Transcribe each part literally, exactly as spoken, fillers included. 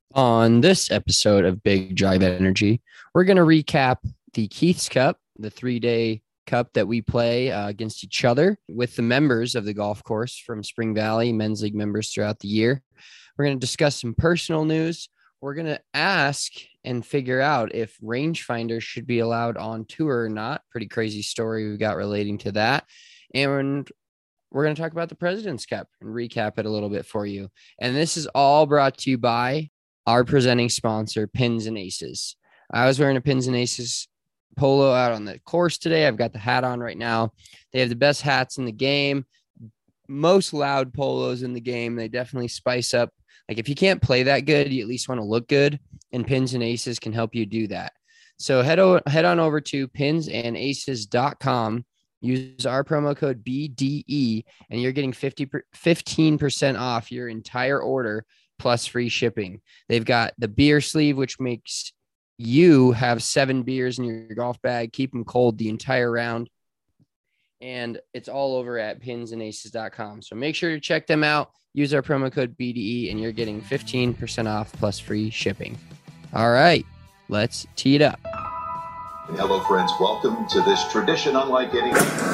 On this episode of Big Drive Energy, we're going to recap the Keith's Cup, the three day cup that we play uh, against each other with the members of the golf course from Spring Valley, men's league members throughout the year. We're going to discuss some personal news. We're going to ask and figure out if rangefinders should be allowed on tour or not. Pretty crazy story we got relating to that. And we're going to talk about the President's Cup and recap it a little bit for you. And this is all brought to you by our presenting sponsor, Pins and Aces. I was wearing a Pins and Aces polo out on the course today. I've got the hat on right now. They have the best hats in the game, most loud polos in the game. They definitely spice up. Like if you can't play that good, you at least want to look good, and Pins and Aces can help you do that. So head, o- head on over to pins and aces dot com. Use our promo code B D E, and you're getting fifty fifteen percent off your entire order plus free shipping. They've got the beer sleeve, which makes you have seven beers in your golf bag, keep them cold the entire round. And it's all over at pins and aces dot com. So make sure to check them out. Use our promo code B D E, and you're getting fifteen percent off plus free shipping. All right, let's tee it up. Hello, friends. Welcome to this tradition unlike any.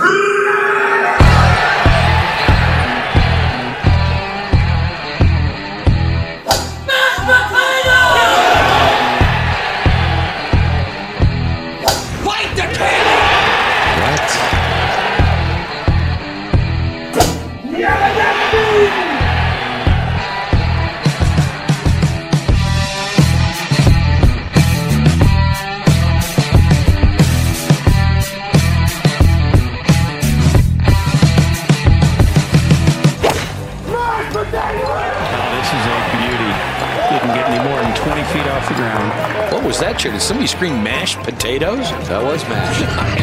What was that, Chair? Did somebody scream mashed potatoes? That was mashed.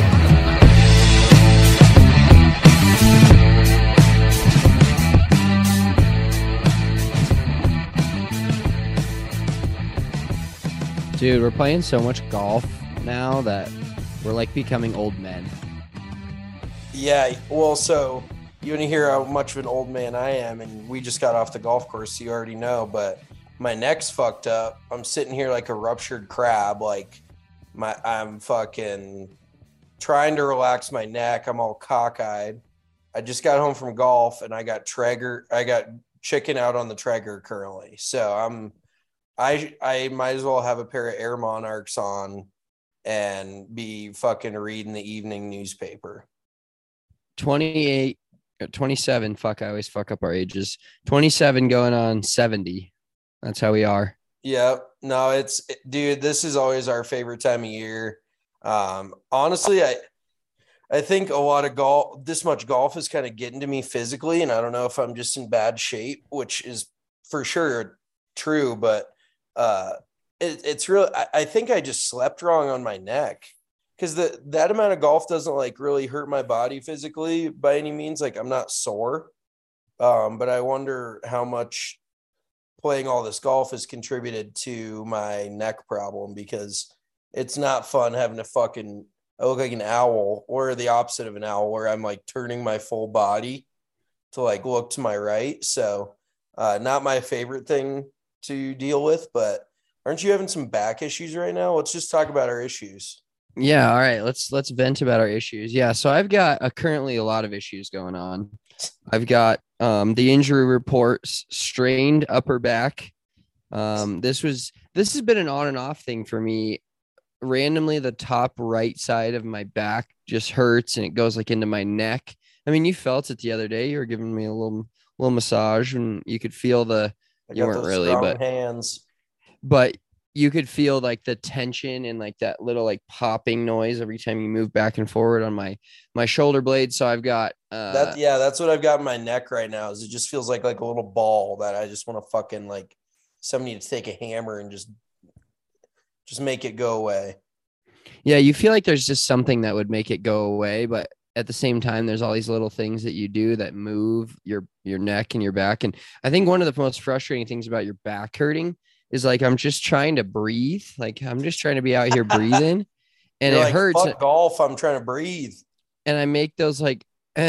Dude, we're playing so much golf now that we're like becoming old men. Yeah, well, so you want to hear how much of an old man I am, and we just got off the golf course, so you already know, but my neck's fucked up. I'm sitting here like a ruptured crab. Like my, I'm fucking trying to relax my neck. I'm all cockeyed. I just got home from golf and I got Traeger. I got chicken out on the Traeger currently. So I'm, I, I might as well have a pair of Air Monarchs on and be fucking reading the evening newspaper. twenty-eight, twenty-seven. Fuck, I always fuck up our ages. twenty-seven going on seventy. That's how we are. Yeah, no, it's dude, this is always our favorite time of year. Um, honestly, I I think a lot of golf, this much golf is kind of getting to me physically, and I don't know if I'm just in bad shape, which is for sure true, but uh, it, it's real. I, I think I just slept wrong on my neck because the that amount of golf doesn't like really hurt my body physically by any means. Like I'm not sore, um, but I wonder how much playing all this golf has contributed to my neck problem, because it's not fun having to fucking, I look like an owl, or the opposite of an owl, where I'm like turning my full body to like look to my right. So uh, not my favorite thing to deal with, but aren't you having some back issues right now? Let's just talk about our issues. Yeah. All right. Let's, let's vent about our issues. Yeah. So I've got a, currently a lot of issues going on. I've got um, the injury reports, strained upper back. Um, this was, this has been an on and off thing for me. Randomly, the top right side of my back just hurts and it goes like into my neck. I mean, you felt it the other day. You were giving me a little, little massage and you could feel the, I you got weren't those really, strong but hands. but you could feel like the tension and like that little like popping noise every time you move back and forward on my my shoulder blade. So I've got uh that yeah, that's what I've got in my neck right now. Is it just feels like like a little ball that I just want to fucking like somebody to take a hammer and just just make it go away. Yeah, you feel like there's just something that would make it go away, but at the same time, there's all these little things that you do that move your your neck and your back. And I think one of the most frustrating things about your back hurting is like I'm just trying to breathe. Like I'm just trying to be out here breathing, and You're it like, hurts. Fuck golf. I'm trying to breathe. And I make those like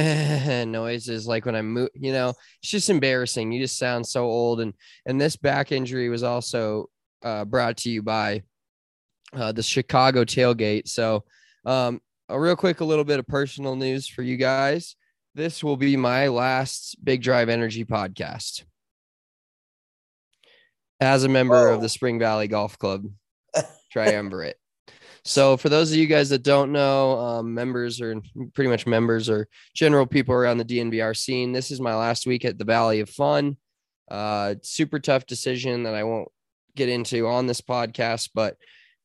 noises like when I move. You know, it's just embarrassing. You just sound so old. And and this back injury was also uh, brought to you by uh, the Chicago Tailgate. So um, a real quick, a little bit of personal news for you guys. This will be my last Big Drive Energy podcast as a member Whoa. of the Spring Valley Golf Club Triumvirate. So for those of you guys that don't know, um, members or pretty much members or general people around the D N V R scene, this is my last week at the Valley of Fun. Uh, super tough decision that I won't get into on this podcast, but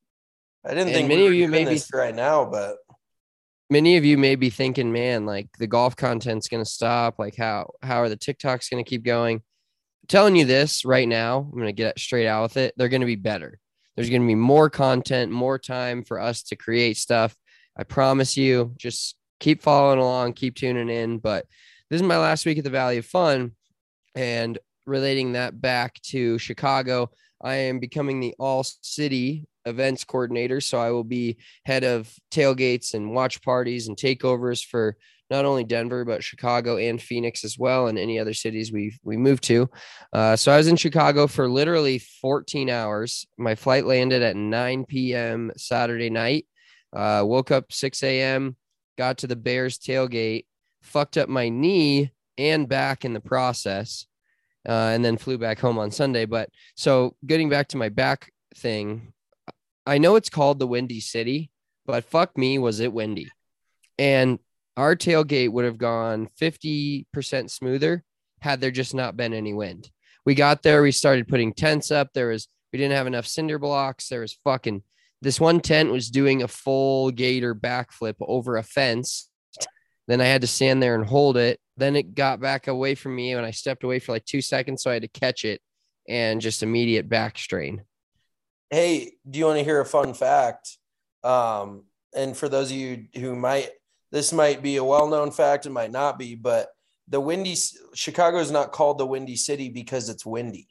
I didn't and think many we of were you doing may be this right now, but many of you may be thinking, man, like the golf content's going to stop. Like how, how are the TikToks going to keep going? I'm telling you this right now. I'm going to get straight out with it. They're going to be better. There's going to be more content, more time for us to create stuff. I promise you, just keep following along, keep tuning in. But this is my last week at the Valley of Fun, and relating that back to Chicago, I am becoming the all city events coordinator. So I will be head of tailgates and watch parties and takeovers for not only Denver, but Chicago and Phoenix as well, and any other cities we we moved to. Uh, so I was in Chicago for literally fourteen hours. My flight landed at nine p.m. Saturday night. Uh, woke up six a.m., got to the Bears tailgate, fucked up my knee and back in the process, uh, and then flew back home on Sunday. But so getting back to my back thing, I know it's called the Windy City, but fuck me, was it windy. And our tailgate would have gone fifty percent smoother had there just not been any wind. We got there, we started putting tents up. There was, we didn't have enough cinder blocks. There was fucking, this one tent was doing a full gator backflip over a fence. Then I had to stand there and hold it. Then it got back away from me and I stepped away for like two seconds. So I had to catch it and just immediate back strain. Hey, do you want to hear a fun fact? Um, and for those of you who might, this might be a well-known fact, it might not be, but the windy Chicago is not called the Windy City because it's windy.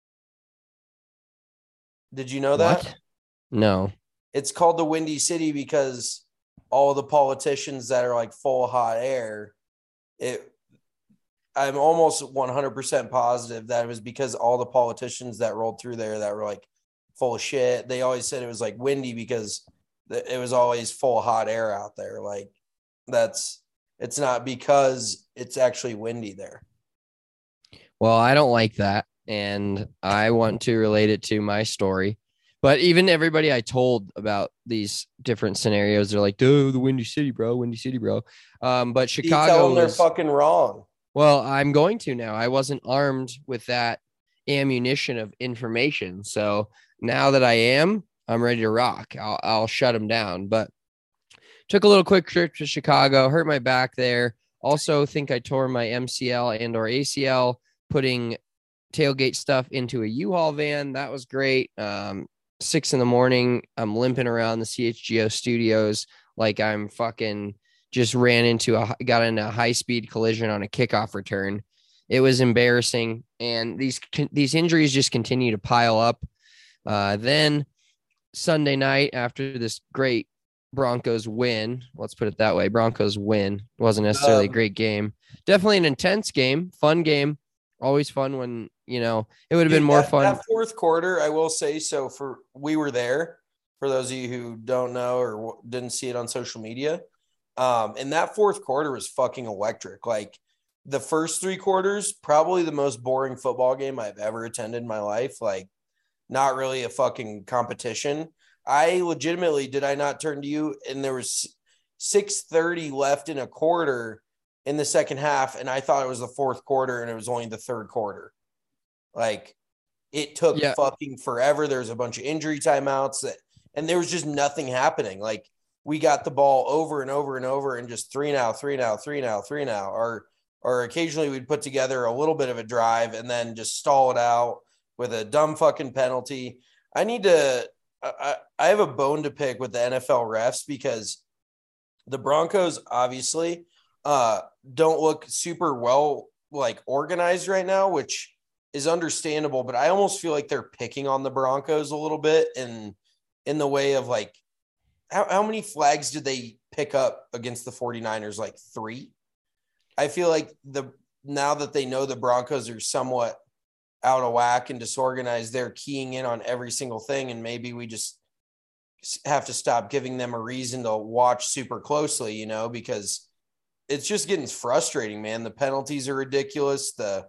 Did you know that? What? No. It's called the Windy City because all the politicians that are like full hot air, it I'm almost one hundred percent positive that it was because all the politicians that rolled through there that were like full of shit. They always said it was like windy because it was always full hot air out there. Like that's, it's not because it's actually windy there. Well, I don't like that. And I want to relate it to my story. But even everybody I told about these different scenarios, they're like, dude, the Windy City, bro, Windy City, bro. Um, but Chicago, you tell them they're was, fucking wrong. Well, I'm going to now. I wasn't armed with that ammunition of information. So now that I am, I'm ready to rock. I'll, I'll shut them down. But took a little quick trip to Chicago, hurt my back there. Also think I tore my M C L and or A C L, putting tailgate stuff into a U-Haul van. That was great. Um, six in the morning, I'm limping around the C H G O studios like I'm fucking just ran into a, got in a high-speed collision on a kickoff return. It was embarrassing. And these, these injuries just continue to pile up. Uh, then Sunday night, after this great Broncos win, let's put it that way, Broncos win, wasn't necessarily um, a great game. Definitely an intense game, fun game. Always fun when, you know, it would have been more that, fun. That fourth quarter, I will say, so for, we were there, for those of you who don't know or didn't see it on social media. Um, and that fourth quarter was fucking electric. Like the first three quarters, probably the most boring football game I've ever attended in my life. Like not really a fucking competition. I legitimately, did I not turn to you? And there was six thirty left in a quarter in the second half. And I thought it was the fourth quarter and it was only the third quarter. Like it took yeah. fucking forever. There was a bunch of injury timeouts that, and there was just nothing happening. Like we got the ball over and over and over and just three now, three now, three now, three now, or, or occasionally we'd put together a little bit of a drive and then just stall it out with a dumb fucking penalty. I need to, I, I have a bone to pick with the N F L refs because the Broncos obviously uh, don't look super well like organized right now, which is understandable, but I almost feel like they're picking on the Broncos a little bit in, in the way of like, how, how many flags did they pick up against the 49ers? Like three. I feel like the, now that they know the Broncos are somewhat, out of whack and disorganized, they're keying in on every single thing. And maybe we just have to stop giving them a reason to watch super closely, you know, because it's just getting frustrating, man. The penalties are ridiculous. The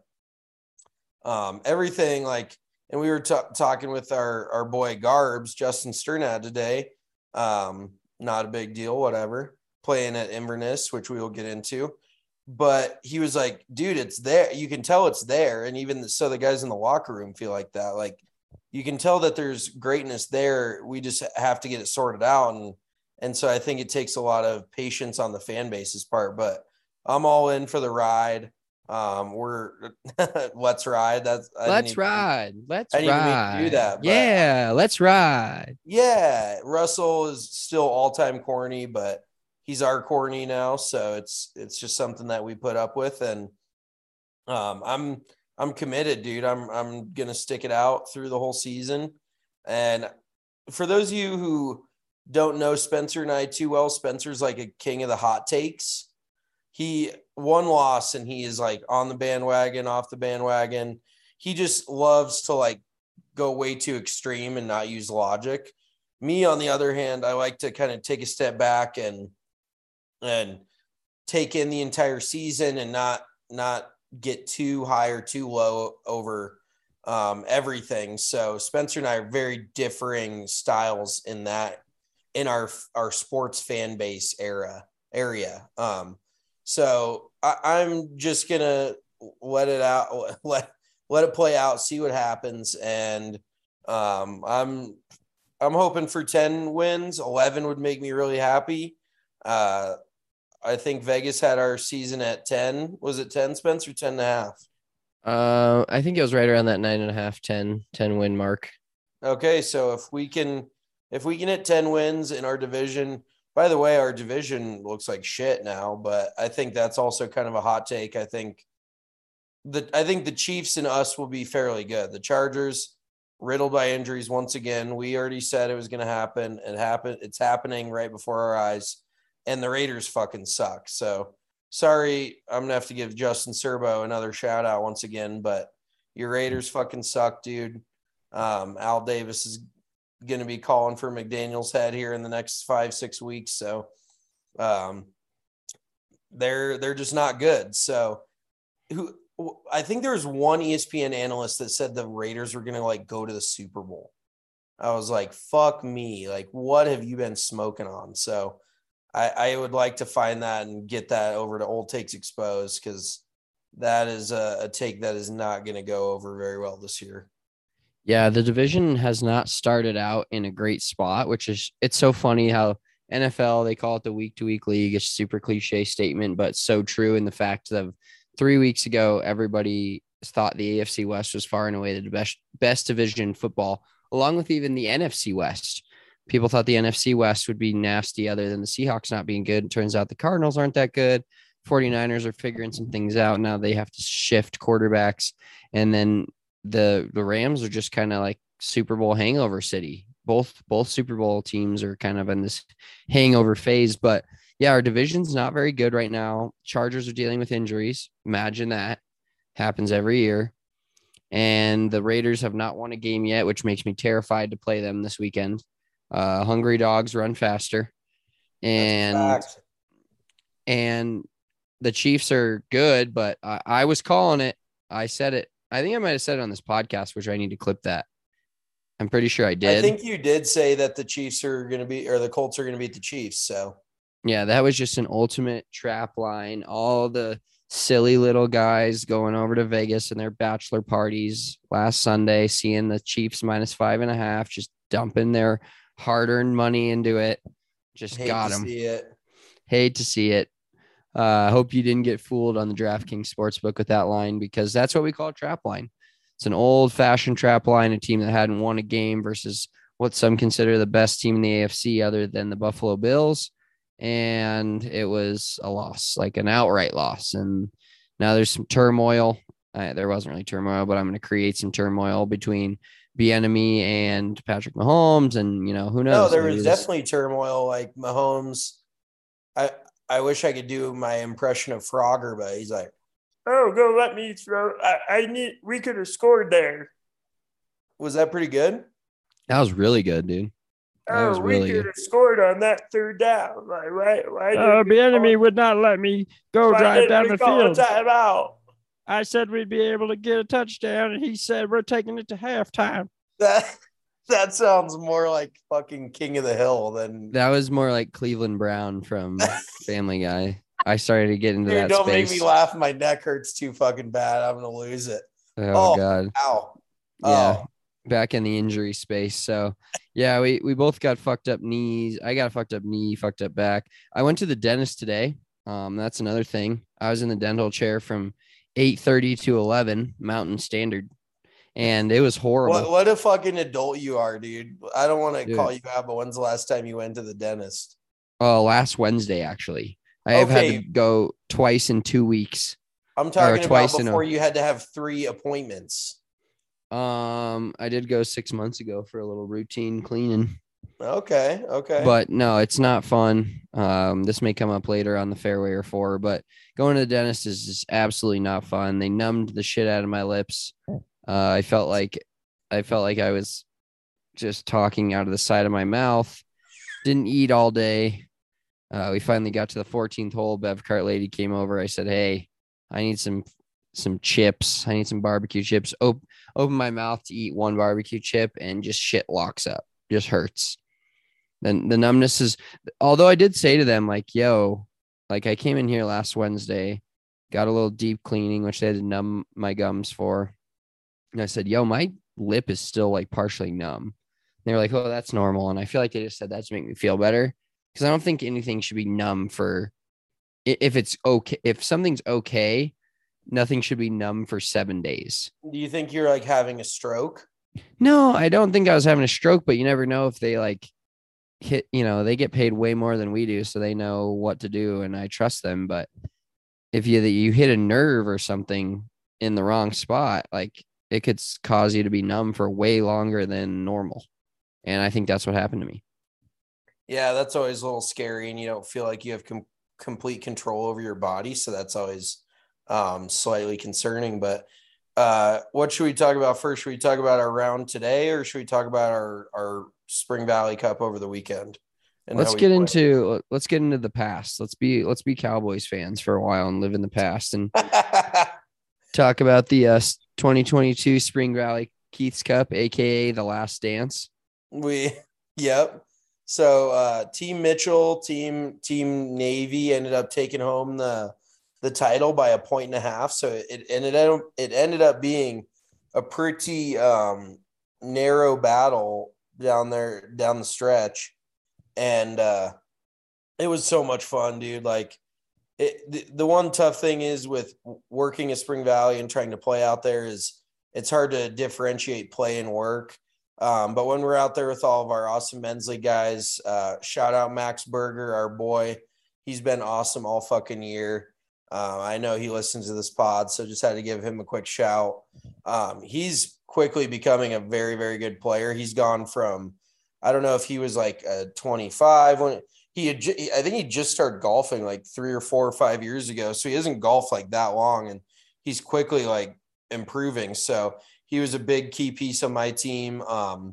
um, everything like, and we were t- talking with our, our boy Garbs, Justin Sternad today. Um, not a big deal, whatever, playing at Inverness, which we will get into. But he was like, dude, it's there. You can tell it's there. And even the, so the guys in the locker room feel like that. Like, you can tell that there's greatness there. We just have to get it sorted out. And, and so I think it takes a lot of patience on the fan base's part, but I'm all in for the ride. Um, we're let's ride. That's I let's even, ride. Let's I didn't ride. even mean to do that. But yeah. Let's ride. Yeah. Russell is still all time corny, but he's our corny now. So it's, it's just something that we put up with. And um, I'm, I'm committed, dude. I'm I'm gonna stick it out through the whole season. And for those of you who don't know Spencer and I too well, Spencer's like a king of the hot takes. He one loss and he is like on the bandwagon, off the bandwagon. He just loves to like go way too extreme and not use logic. Me, on the other hand, I like to kind of take a step back and and take in the entire season and not not get too high or too low over um, everything. So Spencer and I are very differing styles in that, in our, our sports fan base era area. Um, so I, I'm just going to let it out, let, let it play out, see what happens. And um, I'm, I'm hoping for ten wins. eleven would make me really happy. Uh, I think Vegas had our season at ten. Was it ten, Spencer? ten and a half? Uh, I think it was right around that nine and a half, ten, ten win mark. Okay. So if we can, if we can hit ten wins in our division, by the way, our division looks like shit now, but I think that's also kind of a hot take. I think the, I think the Chiefs and us will be fairly good. The Chargers riddled by injuries once again. We already said it was going to happen. It happened. It's happening right before our eyes. And the Raiders fucking suck. So sorry, I'm going to have to give Justin Serbo another shout out once again, but your Raiders fucking suck, dude. Um, Al Davis is going to be calling for McDaniel's head here in the next five, six weeks. So um, they're, they're just not good. So who, I think there was one E S P N analyst that said the Raiders were going to like go to the Super Bowl. I was like, fuck me. Like, what have you been smoking on? So I, I would like to find that and get that over to Old Takes Exposed, because that is a, a take that is not going to go over very well this year. Yeah, the division has not started out in a great spot, which is, it's so funny how N F L, they call it the week to week league. It's a super cliche statement, but so true in the fact of three weeks ago, everybody thought the A F C West was far and away the best, best division in football, along with even the N F C West. People thought the N F C West would be nasty other than the Seahawks not being good. It turns out the Cardinals aren't that good. forty-niners are figuring some things out. Now they have to shift quarterbacks. And then the the Rams are just kind of like Super Bowl hangover city. Both both Super Bowl teams are kind of in this hangover phase. But yeah, our division's not very good right now. Chargers are dealing with injuries. Imagine that. Happens every year. And the Raiders have not won a game yet, which makes me terrified to play them this weekend. Uh, hungry dogs run faster. And and the Chiefs are good, but I, I was calling it. I said it. I think I might have said it on this podcast, which I need to clip that. I'm pretty sure I did. I think you did say that the Chiefs are going to be, or the Colts are going to beat the Chiefs. So yeah, that was just an ultimate trap line. All the silly little guys going over to Vegas and their bachelor parties last Sunday, seeing the Chiefs minus five and a half, just dumping their hard-earned money into it. Just Hate got to them. See it. Hate to see it. I uh, hope you didn't get fooled on the DraftKings Sportsbook with that line, because that's what we call a trap line. It's an old-fashioned trap line, a team that hadn't won a game versus what some consider the best team in the A F C other than the Buffalo Bills. And it was a loss, like an outright loss. And now there's some turmoil. Uh, there wasn't really turmoil, but I'm going to create some turmoil between Bieniemy and Patrick Mahomes. And, you know, who knows? No, there was this... definitely turmoil. Like Mahomes, I, I wish I could do my impression of Frogger, but he's like, Oh, go let me throw. I, I need. We could have scored there. Was that pretty good? That was really good, dude. That Oh, was we really could good. have scored on that third down. Like, why? Why Uh, did the we enemy call, would not let me go why drive did down we the call field. a timeout? I said we'd be able to get a touchdown, and he said we're taking it to halftime. That that sounds more like fucking King of the Hill than. That was more like Cleveland Brown from Family Guy. I started to get into Dude, that don't space. make me laugh. My neck hurts too fucking bad. I'm gonna lose it. Oh, Oh, God. Ow. Yeah. Oh. Back in the injury space. So yeah, we, we both got fucked up knees. I got a fucked up knee, fucked up back. I went to the dentist today. Um, that's another thing. I was in the dental chair from eight thirty to eleven Mountain Standard, and it was horrible. What what a fucking adult you are, dude. I don't want to Dude. call you out, but when's the last time you went to the dentist? Oh, last Wednesday, actually. I have Okay. had to go twice in two weeks. I'm talking about twice in a- before you had to have three appointments. Um, I did go six months ago for a little routine cleaning. Okay, okay. But no, it's not fun. Um, this may come up later on the fairway or four, but going to the dentist is just absolutely not fun. They numbed the shit out of my lips. Uh, I felt like I felt like I was just talking out of the side of my mouth. Didn't eat all day. Uh, we finally got to the fourteenth hole. Bev cart lady came over. I said, "Hey, I need some some chips. I need some barbecue chips." Op- open my mouth to eat one barbecue chip, and just shit locks up. Just hurts. Then the numbness is, although I did say to them, like, yo, like I came in here last Wednesday, got a little deep cleaning, which they had to numb my gums for. And I said, yo, my lip is still like partially numb. And they were like, oh, that's normal. And I feel like they just said that to make me feel better. Because I don't think anything should be numb for, if it's okay, if something's okay, nothing should be numb for seven days. Do you think you're like having a stroke? No, I don't think I was having a stroke, but you never know if they like hit, you know, they get paid way more than we do, so they know what to do, and I trust them. But if you you hit a nerve or something in the wrong spot, like it could cause you to be numb for way longer than normal. And I think that's what happened to me. Yeah, that's always a little scary, and you don't feel like you have com- complete control over your body, so that's always um, slightly concerning. But uh, what should we talk about first? Should we talk about our round today, or should we talk about our our Spring Valley Cup over the weekend? And Let's how we get played? into let's get into the past. Let's be let's be Cowboys fans for a while and live in the past and talk about the uh, twenty twenty-two Spring Valley Keith's Cup, aka the Last Dance. We, yep. So uh, Team Mitchell, Team Team Navy ended up taking home the the title by a point and a half. So it ended up it ended up being a pretty um, narrow battle down there down the stretch, and uh, it was so much fun, dude. Like it, the, the one tough thing is with working at Spring Valley and trying to play out there is it's hard to differentiate play and work. Um, but when we're out there with all of our awesome men's league guys, uh, shout out Max Berger, our boy. He's been awesome all fucking year. Uh, I know he listens to this pod, so just had to give him a quick shout. Um, he's quickly becoming a very, very good player. He's gone from, I don't know if he was like a twenty-five when he had, ju- I think he just started golfing like three or four or five years ago. So he hasn't golfed like that long, and he's quickly like improving. So he was a big key piece on my team. Um,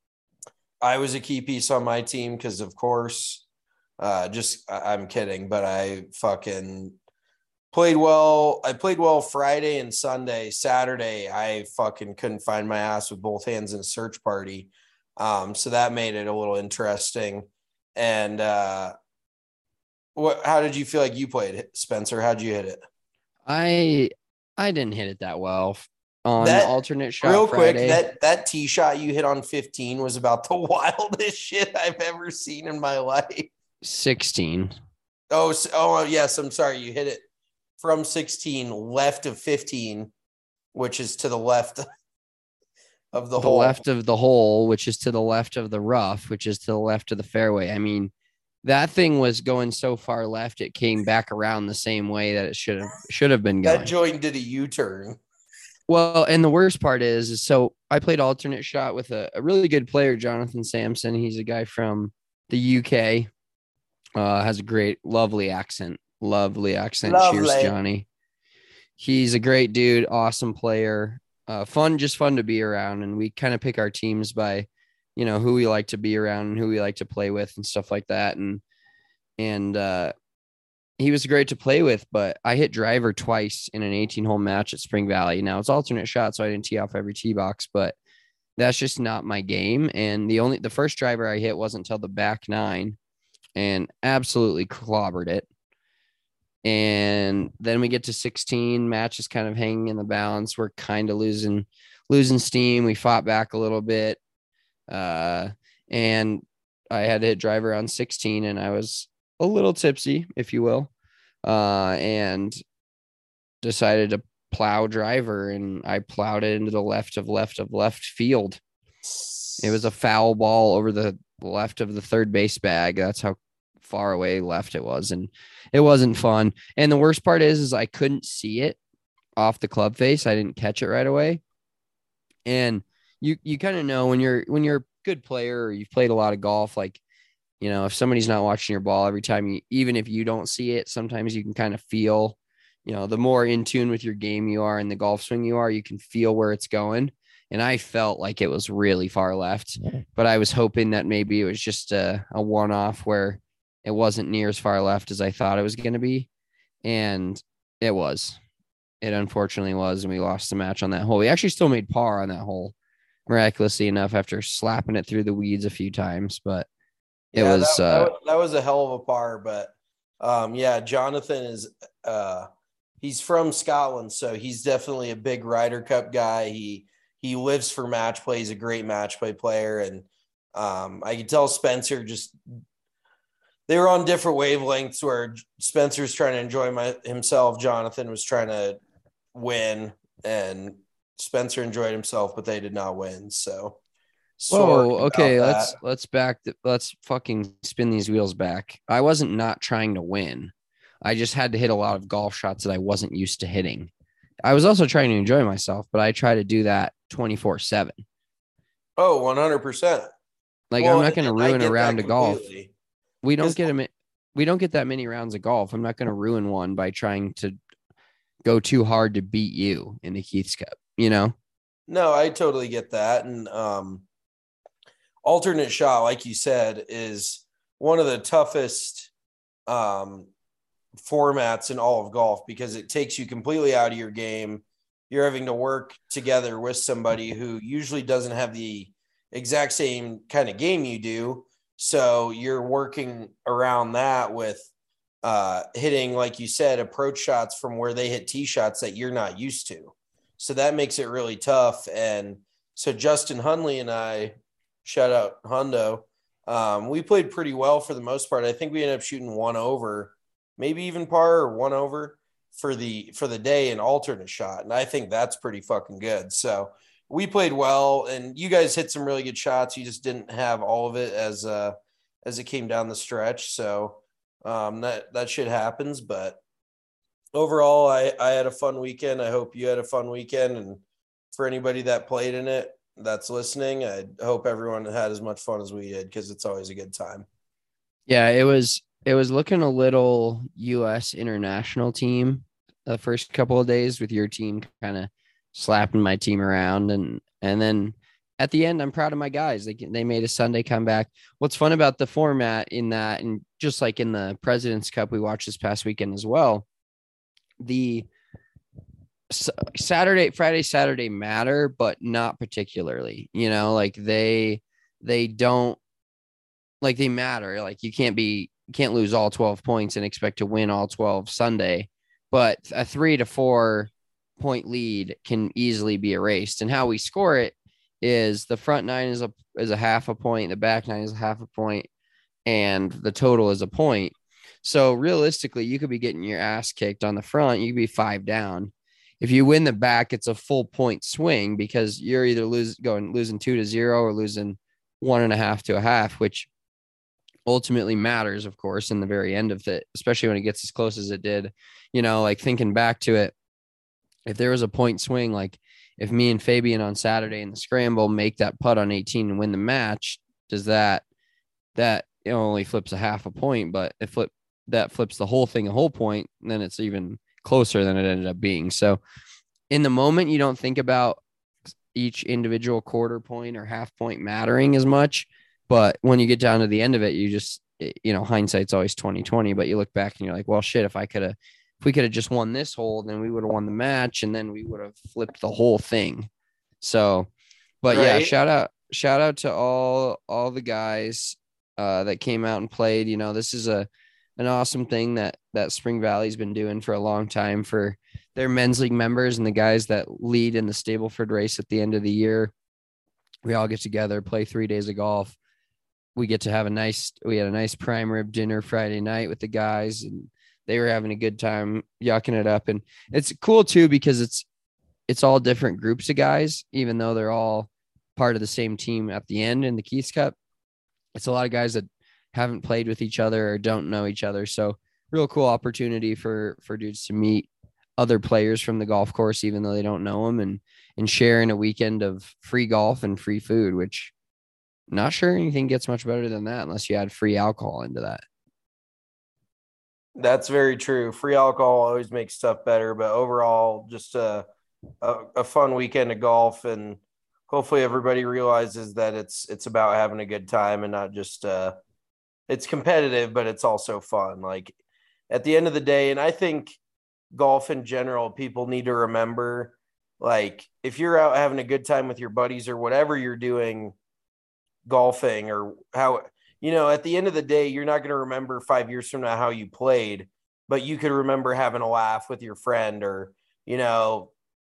I was a key piece on my team because, of course, uh, just I- I'm kidding, but I fucking played well. I played well Friday and Sunday. Saturday, I fucking couldn't find my ass with both hands in a search party. Um, so that made it a little interesting. And uh, what? How did you feel like you played, Spencer? How'd you hit it? I I didn't hit it that well on That- the alternate shot. Real Friday. quick, that that tee shot you hit on fifteen was about the wildest shit I've ever seen in my life. sixteen. Oh, s- oh yes, I'm sorry. You hit it from sixteen, left of fifteen, which is to the left of the, The hole. left of the hole, which is to the left of the rough, which is to the left of the fairway. I mean, that thing was going so far left, it came back around the same way that it should have should have been going. That joint did a U-turn. Well, and the worst part is, is so I played alternate shot with a, a really good player, Jonathan Sampson. He's a guy from the U K. Uh, has a great, lovely accent. Lovely accent. Lovely. Cheers, Johnny. he's a great dude, awesome player, uh, fun, just fun to be around. And we kind of pick our teams by, you know, who we like to be around and who we like to play with and stuff like that. And, and, uh, he was great to play with, but I hit driver twice in an eighteen hole match at Spring Valley. Now it's alternate shot, so I didn't tee off every tee box, but that's just not my game. And the only, the first driver I hit wasn't until the back nine and absolutely clobbered it. And then we get to sixteen, match is kind of hanging in the balance. We're kind of losing, losing steam. We fought back a little bit. Uh, and I had to hit driver on sixteen and I was a little tipsy, if you will, uh, and decided to plow driver, and I plowed it into the left of left of left field. It was a foul ball over the left of the third base bag. That's how far away left it was, and it wasn't fun. And the worst part is, is I couldn't see it off the club face. I didn't catch it right away. And you you kind of know when you're when you're a good player or you've played a lot of golf, like, you know, if somebody's not watching your ball every time, you, even if you don't see it, sometimes you can kind of feel, you know, the more in tune with your game you are and the golf swing you are, you can feel where it's going. And I felt like it was really far left, but I was hoping that maybe it was just a, a one-off where it wasn't near as far left as I thought it was going to be. And it was. It unfortunately was, and we lost the match on that hole. We actually still made par on that hole, miraculously enough, after slapping it through the weeds a few times, but it yeah, was, that, uh, that was that was a hell of a par. But um, yeah, Jonathan is uh, he's from Scotland, so he's definitely a big Ryder Cup guy. He he lives for match play. He's a great match play player, and um, I could tell Spencer just they were on different wavelengths. Where Spencer's trying to enjoy my, himself, Jonathan was trying to win, and Spencer enjoyed himself, but they did not win. So. Whoa, okay, that. let's let's back the, let's fucking spin these wheels back. I wasn't not trying to win. I just had to hit a lot of golf shots that I wasn't used to hitting. I was also trying to enjoy myself, but I try to do that twenty-four seven. Oh, one hundred percent. Like, well, I'm not going to ruin a round of golf. We don't get a we don't get that many rounds of golf. I'm not going to ruin one by trying to go too hard to beat you in the Keith's Cup, you know? No, I totally get that. And um alternate shot, like you said, is one of the toughest um, formats in all of golf because it takes you completely out of your game. You're having to work together with somebody who usually doesn't have the exact same kind of game you do. So you're working around that with uh, hitting, like you said, approach shots from where they hit tee shots that you're not used to. So that makes it really tough. And so Justin Hunley and I, shout out Hundo. Um, we played pretty well for the most part. I think we ended up shooting one over, maybe even par or one over for the for the day in alternate shot. And I think that's pretty fucking good. So we played well, and you guys hit some really good shots. You just didn't have all of it as uh as it came down the stretch. So um, that that shit happens. But overall, I I had a fun weekend. I hope you had a fun weekend, and for anybody that played in it that's listening, I hope everyone had as much fun as we did, because it's always a good time. Yeah, it was it was looking a little U S international team the first couple of days, with your team kind of slapping my team around, and and then at the end, I'm proud of my guys. They they made a Sunday comeback. What's fun about the format in that, and just like in the President's Cup we watched this past weekend as well, the Saturday, Friday, Saturday matter, but not particularly, you know, like they, they don't like, they matter. Like you can't be, you can't lose all twelve points and expect to win all twelve Sunday, but a three to four point lead can easily be erased. And how we score it is the front nine is a, is a half a point. The back nine is a half a point, and the total is a point. So realistically, you could be getting your ass kicked on the front. You could be five down. If you win the back, it's a full point swing, because you're either lose going losing two to zero or losing one and a half to a half, which ultimately matters, of course, in the very end of it, especially when it gets as close as it did. You know, like thinking back to it, if there was a point swing, like if me and Fabian on Saturday in the scramble make that putt on eighteen and win the match, does that, that it only flips a half a point, but it flip that flips the whole thing a whole point, and then it's even closer than it ended up being. So in the moment, you don't think about each individual quarter point or half point mattering as much. But when you get down to the end of it, you just, you know, hindsight's always twenty twenty, but you look back and you're like, well, shit, if I could have, if we could have just won this hole, then we would have won the match and then we would have flipped the whole thing. So, but right. yeah, shout out, shout out to all, all the guys uh, that came out and played. You know, this is a, an awesome thing that, that Spring Valley's been doing for a long time for their men's league members and the guys that lead in the Stableford race at the end of the year. We all get together, play three days of golf. We get to have a nice, we had a nice prime rib dinner Friday night with the guys, and they were having a good time yucking it up. And it's cool too, because it's, it's all different groups of guys, even though they're all part of the same team at the end in the Keith's Cup. It's a lot of guys that haven't played with each other or don't know each other. So real cool opportunity for, for dudes to meet other players from the golf course, even though they don't know them, and, and sharing a weekend of free golf and free food, which not sure anything gets much better than that unless you add free alcohol into that. That's very true. Free alcohol always makes stuff better, but overall, just a, a, a fun weekend of golf, and hopefully everybody realizes that it's, it's about having a good time and not just, uh, it's competitive, but it's also fun. Like at the end of the day, and I think golf in general, people need to remember, like, if you're out having a good time with your buddies or whatever you're doing, golfing or how, you know, at the end of the day, you're not going to remember five years from now how you played, but you could remember having a laugh with your friend, or, you know,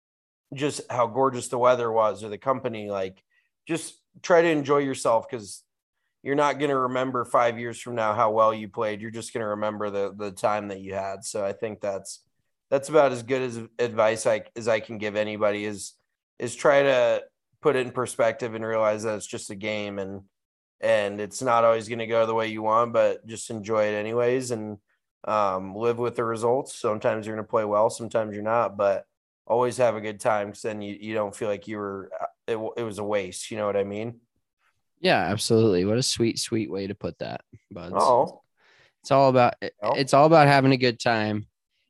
just how gorgeous the weather was or the company. Like, just try to enjoy yourself, because you're not going to remember five years from now how well you played. You're just going to remember the the time that you had. So I think that's that's about as good as advice I, as I can give anybody, is is try to put it in perspective and realize that it's just a game, and and it's not always going to go the way you want, but just enjoy it anyways, and um, live with the results. Sometimes you're going to play well, sometimes you're not, but always have a good time, because then you, you don't feel like you were, it, it was a waste. You know what I mean? Yeah, absolutely. What a sweet, sweet way to put that, buds. Oh, it's all about, oh. it's all about having a good time.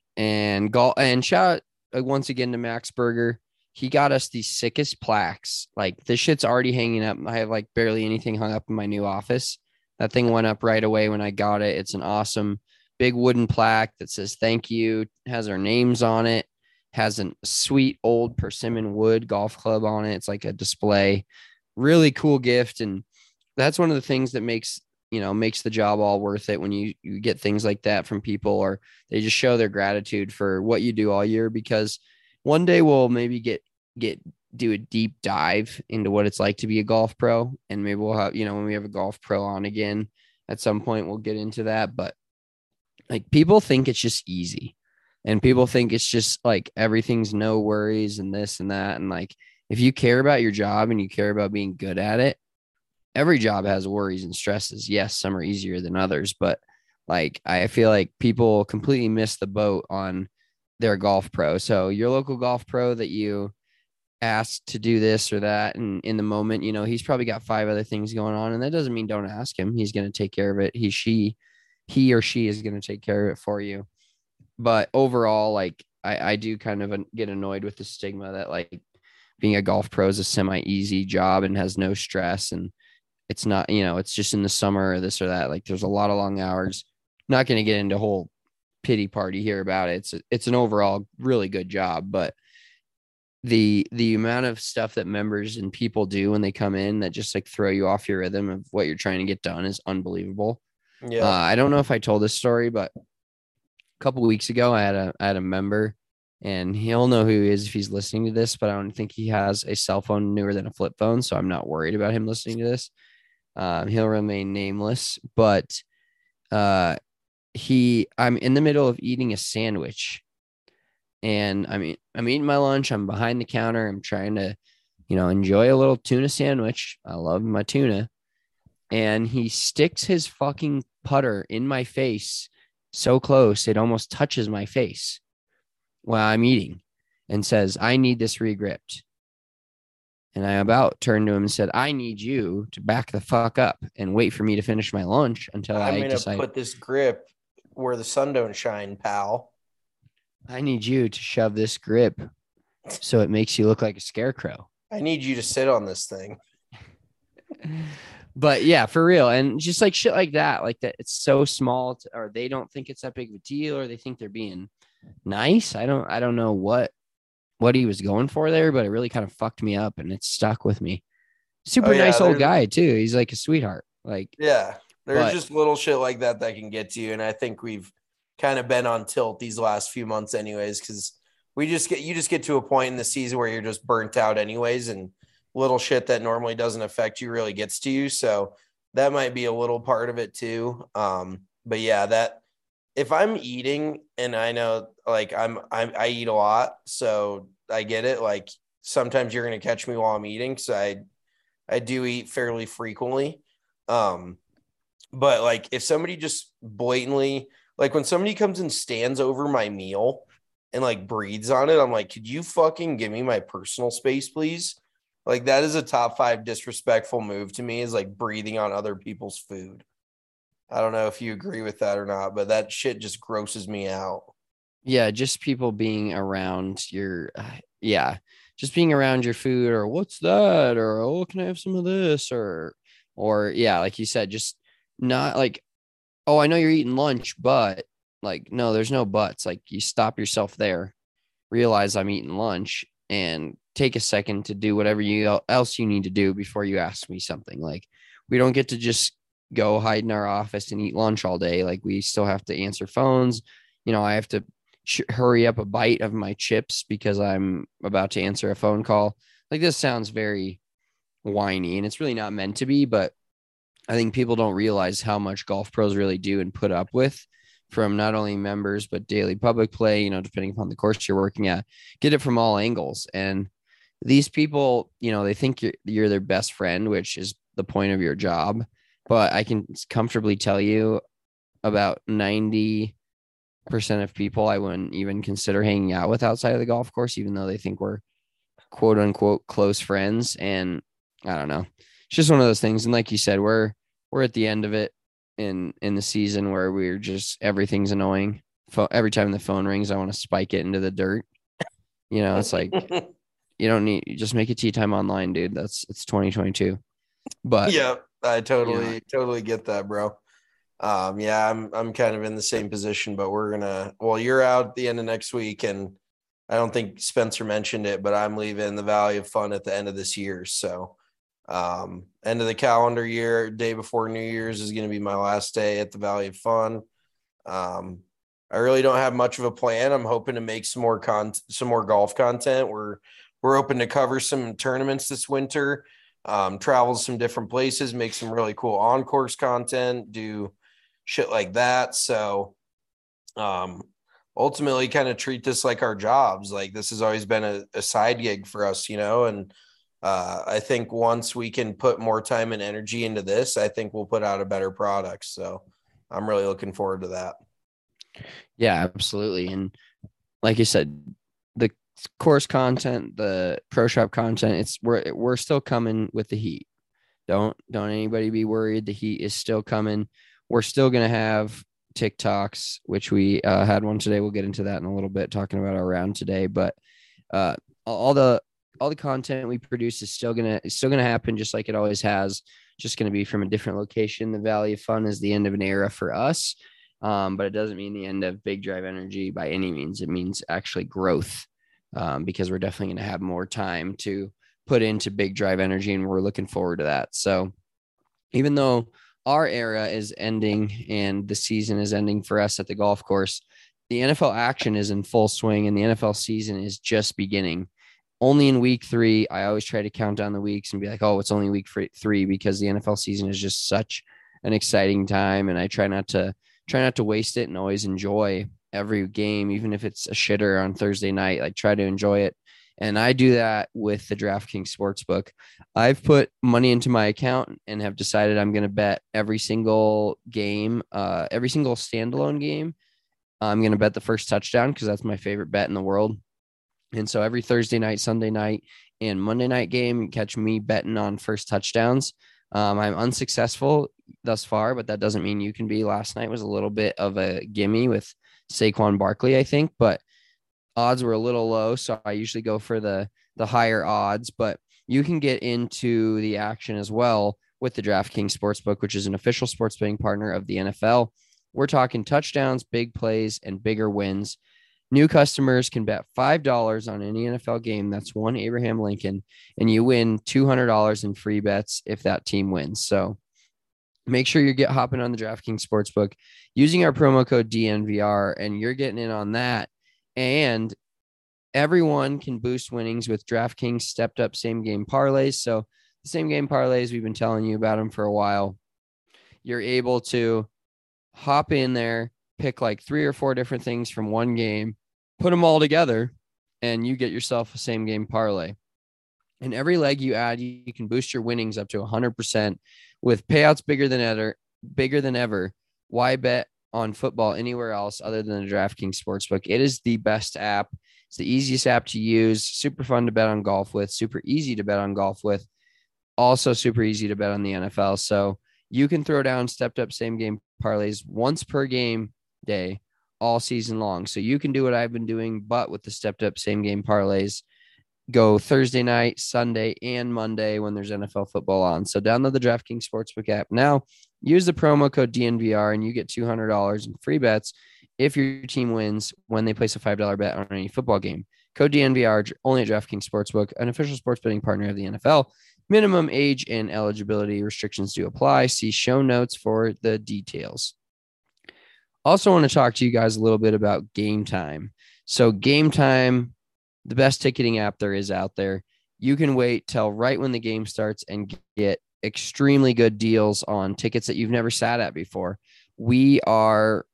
And golf, and shout out once again to Max Berger. He got us the sickest plaques. Like, this shit's already hanging up. I have like barely anything hung up in my new office. That thing went up right away when I got it. It's an awesome big wooden plaque that says thank you, has our names on it, has a sweet old Persimmon wood golf club on it. It's like a display. Really cool gift. And that's one of the things that makes, you know, makes the job all worth it when you, you get things like that from people, or they just show their gratitude for what you do all year. Because one day we'll maybe get, get, do a deep dive into what it's like to be a golf pro. And maybe we'll have, you know, when we have a golf pro on again, at some point we'll get into that. But like, people think it's just easy, and people think it's just like everything's no worries and this and that. And like, if you care about your job and you care about being good at it, every job has worries and stresses. Yes, some are easier than others, but like, I feel like people completely miss the boat on their golf pro. So your local golf pro that you asked to do this or that, and in the moment, you know, he's probably got five other things going on, and that doesn't mean don't ask him. He's going to take care of it. He, she, he or she is going to take care of it for you. But overall, like, I, I do kind of get annoyed with the stigma that like being a golf pro is a semi-easy job and has no stress, and it's not, you know, it's just in the summer or this or that. Like, there's a lot of long hours. Not going to get into a whole pity party here about it. It's it's an overall really good job, but the the amount of stuff that members and people do when they come in that just like throw you off your rhythm of what you're trying to get done is unbelievable. Yeah, uh, I don't know if I told this story, but a couple of weeks ago, I had a I had a member, and he'll know who he is if he's listening to this, but I don't think he has a cell phone newer than a flip phone, so I'm not worried about him listening to this. Um, he'll remain nameless, but uh, he, I'm in the middle of eating a sandwich, and I mean, I'm eating my lunch. I'm behind the counter. I'm trying to, you know, enjoy a little tuna sandwich. I love my tuna. And he sticks his fucking putter in my face so close, it almost touches my face while I'm eating, and says, I need this regripped. And I about turned to him and said, I need you to back the fuck up and wait for me to finish my lunch until I'm I gonna decide. Put this grip where the sun don't shine, pal. I need you to shove this grip so it makes you look like a scarecrow. I need you to sit on this thing. But yeah, for real. And just like shit like that, like that, it's so small to, or they don't think it's that big of a deal, or they think they're being nice. I don't, I don't know what, what he was going for there, but it really kind of fucked me up and it stuck with me. Super Oh, yeah, nice old there's- guy too. He's like a sweetheart. Like, Yeah, there's But- just little shit like that that can get to you. And I think we've kind of been on tilt these last few months anyways, because we just get, you just get to a point in the season where you're just burnt out anyways. And little shit that normally doesn't affect you really gets to you. So that might be a little part of it too. Um, but yeah, that if I'm eating and I know like I'm, I'm I eat a lot, so I get it. Like sometimes you're going to catch me while I'm eating. So I, I do eat fairly frequently. Um, but like if somebody just blatantly, like when somebody comes and stands over my meal and like breathes on it, I'm like, could you fucking give me my personal space, please? Like that is a top five disrespectful move to me, is like breathing on other people's food. I don't know if you agree with that or not, but that shit just grosses me out. yeah, just people being around your, uh, yeah, just being around your food, or what's that? Or, oh, can I have some of this? Or, or yeah, like you said, just not like, oh, I know you're eating lunch, but like, no, there's no buts. Like you stop yourself there, realize I'm eating lunch, and take a second to do whatever you else you need to do before you ask me something. Like we don't get to just go hide in our office and eat lunch all day. Like we still have to answer phones. You know, I have to sh- hurry up a bite of my chips because I'm about to answer a phone call. Like this sounds very whiny, and it's really not meant to be, but I think people don't realize how much golf pros really do and put up with from not only members, but daily public play, you know, depending upon the course you're working at, get it from all angles. And these people, you know, they think you're, you're their best friend, which is the point of your job. But I can comfortably tell you about ninety percent of people I wouldn't even consider hanging out with outside of the golf course, even though they think we're quote unquote close friends. And I don't know. It's just one of those things. And like you said, we're, we're at the end of it in, in the season where we're just, everything's annoying. Fo- every time the phone rings, I want to spike it into the dirt. You know, it's like, you don't need, you just make a tea time online, dude. That's, it's twenty twenty-two. But yeah, I totally, you know. totally get that, bro. Um, yeah, I'm, I'm kind of in the same position, but we're gonna, well, you're out at the end of next week, and I don't think Spencer mentioned it, but I'm leaving the Valley of Fun at the end of this year. So, um, end of the calendar year, day before New Year's is going to be my last day at the Valley of Fun. Um, I really don't have much of a plan. I'm hoping to make some more con, some more golf content. We're, we're open to cover some tournaments this winter, um, travel to some different places, make some really cool on-course content, do shit like that. So, um, ultimately kind of treat this like our jobs. Like this has always been a, a side gig for us, you know? And, uh, I think once we can put more time and energy into this, I think we'll put out a better product. So I'm really looking forward to that. yeah, absolutely. And like you said, the course content, the pro shop content, it's we're we're still coming with the heat. Don't don't anybody be worried. The heat is still coming. We're still gonna have TikToks, which we uh, had one today. We'll get into that in a little bit, talking about our round today. But uh, all the all the content we produce is still gonna is still gonna happen, just like it always has. Just gonna be from a different location. The Valley of Fun is the end of an era for us, um, but it doesn't mean the end of Big Drive Energy by any means. It means actually growth, um, because we're definitely gonna have more time to put into Big Drive Energy, and we're looking forward to that. So even though our era is ending and the season is ending for us at the golf course, the N F L action is in full swing, and the N F L season is just beginning. Only in week three, I always try to count down the weeks and be like, oh, it's only week three, because the N F L season is just such an exciting time. And I try not to try not to waste it and always enjoy every game, even if it's a shitter on Thursday night. Like try to enjoy it. And I do that with the DraftKings Sportsbook. I've put money into my account and have decided I'm going to bet every single game, uh, every single standalone game. I'm going to bet the first touchdown because that's my favorite bet in the world. And so every Thursday night, Sunday night, and Monday night game, you catch me betting on first touchdowns. Um, I'm unsuccessful thus far, but that doesn't mean you can be. Last night was a little bit of a gimme with Saquon Barkley, I think, but odds were a little low, so I usually go for the the higher odds, but you can get into the action as well with the DraftKings Sportsbook, which is an official sports betting partner of the N F L. We're talking touchdowns, big plays, and bigger wins. New customers can bet five dollars on any N F L game. That's one Abraham Lincoln, and you win two hundred dollars in free bets if that team wins. So make sure you get hopping on the DraftKings Sportsbook using our promo code D N V R, and you're getting in on that. And everyone can boost winnings with DraftKings stepped up same game parlays. So the same game parlays, we've been telling you about them for a while. You're able to hop in there, pick like three or four different things from one game, put them all together, and you get yourself a same game parlay. And every leg you add, you can boost your winnings up to one hundred percent with payouts bigger than ever. Bigger than ever. Why bet on football anywhere else other than the DraftKings Sportsbook? It is the best app. It's the easiest app to use. Super fun to bet on golf with. Super easy to bet on golf with. Also super easy to bet on the N F L. So you can throw down stepped up same game parlays once per game day all season long. So you can do what I've been doing, but with the stepped up same game parlays, go Thursday night, Sunday, and Monday when there's N F L football on. So download the DraftKings Sportsbook app now. Use the promo code D N V R, and you get two hundred dollars in free bets if your team wins when they place a five dollars bet on any football game. Code D N V R only at DraftKings Sportsbook, an official sports betting partner of the N F L. Minimum age and eligibility restrictions do apply. See show notes for the details. Also want to talk to you guys a little bit about Game Time. So Game Time, the best ticketing app there is out there. You can wait till right when the game starts and get extremely good deals on tickets that you've never sat at before. We are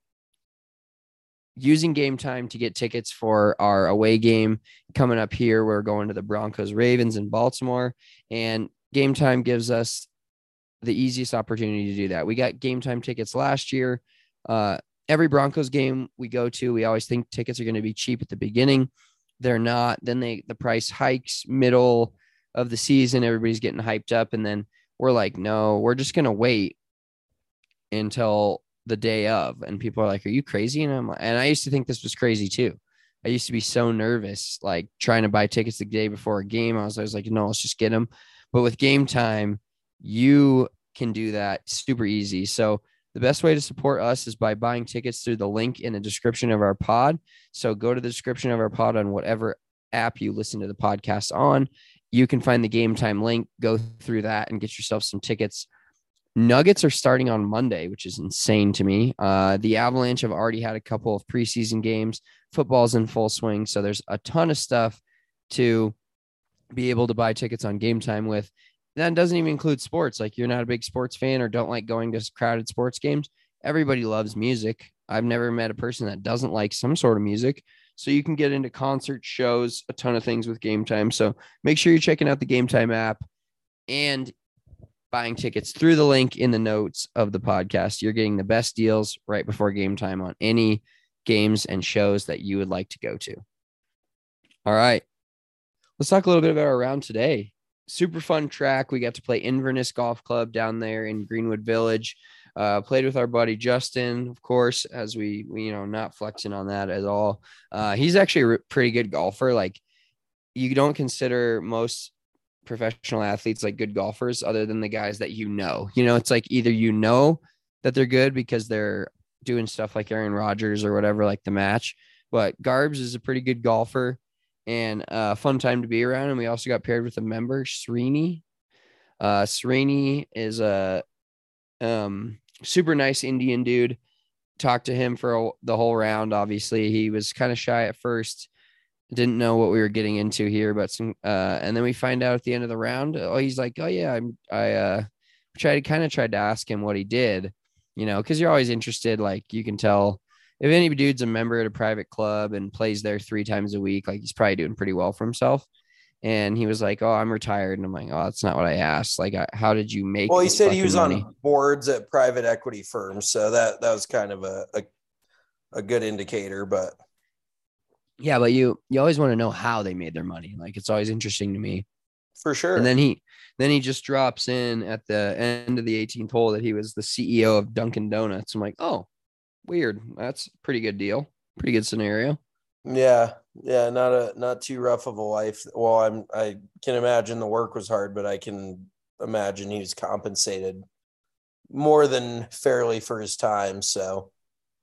using Game Time to get tickets for our away game coming up here. We're going to the Broncos Ravens in Baltimore, and Game Time gives us the easiest opportunity to do that. We got Game Time tickets last year. Uh, every Broncos game we go to, we always think tickets are going to be cheap at the beginning. They're not. Then they the price hikes middle of the season. Everybody's getting hyped up, and then we're like, no, we're just going to wait until the day of. And people are like, are you crazy? And I'm like, and I used to think this was crazy too. I used to be so nervous, like trying to buy tickets the day before a game. I was always like, no, let's just get them. But with Game Time, you can do that super easy. So the best way to support us is by buying tickets through the link in the description of our pod. So go to the description of our pod on whatever app you listen to the podcast on. You can find the Game Time link, go through that and get yourself some tickets. Nuggets are starting on Monday, which is insane to me. Uh, the Avalanche have already had a couple of preseason games. Football's in full swing. So there's a ton of stuff to be able to buy tickets on Game Time with. That doesn't even include sports. Like you're not a big sports fan or don't like going to crowded sports games. Everybody loves music. I've never met a person that doesn't like some sort of music. So you can get into concert shows, a ton of things with Game Time. So make sure you're checking out the Game Time app and buying tickets through the link in the notes of the podcast. You're getting the best deals right before game time on any games and shows that you would like to go to. All right. Let's talk a little bit about our round today. Super fun track. We got to play Inverness Golf Club down there in Greenwood Village. Uh, played with our buddy Justin, of course, as we, we you know, not flexing on that at all. Uh, he's actually a pretty good golfer. Like you don't consider most professional athletes like good golfers other than the guys that you know. You know, it's like either you know that they're good because they're doing stuff like Aaron Rodgers or whatever, like the match. But Garbs is a pretty good golfer and a uh, fun time to be around. And we also got paired with a member, Srini. Uh, Srini is a um, super nice Indian dude. Talked to him for a, the whole round. Obviously, he was kind of shy at first. Didn't know what we were getting into here, but some, uh, and then we find out at the end of the round, oh, he's like, oh yeah, I'm, I, uh, tried kind of tried to ask him what he did, you know, cause you're always interested. Like you can tell if any dude's a member at a private club and plays there three times a week, like he's probably doing pretty well for himself. And he was like, oh, I'm retired. And I'm like, oh, that's not what I asked. Like, I, how did you make, well, he said he was money? On boards at private equity firms. So that, that was kind of a, a, a good indicator, but yeah, but you you always want to know how they made their money. Like it's always interesting to me. For sure. And then he then he just drops in at the end of the eighteenth hole that he was the C E O of Dunkin' Donuts. I'm like, oh, weird. That's a pretty good deal. Pretty good scenario. Yeah, yeah, not a not too rough of a life. Well, I'm I can imagine the work was hard, but I can imagine he was compensated more than fairly for his time. So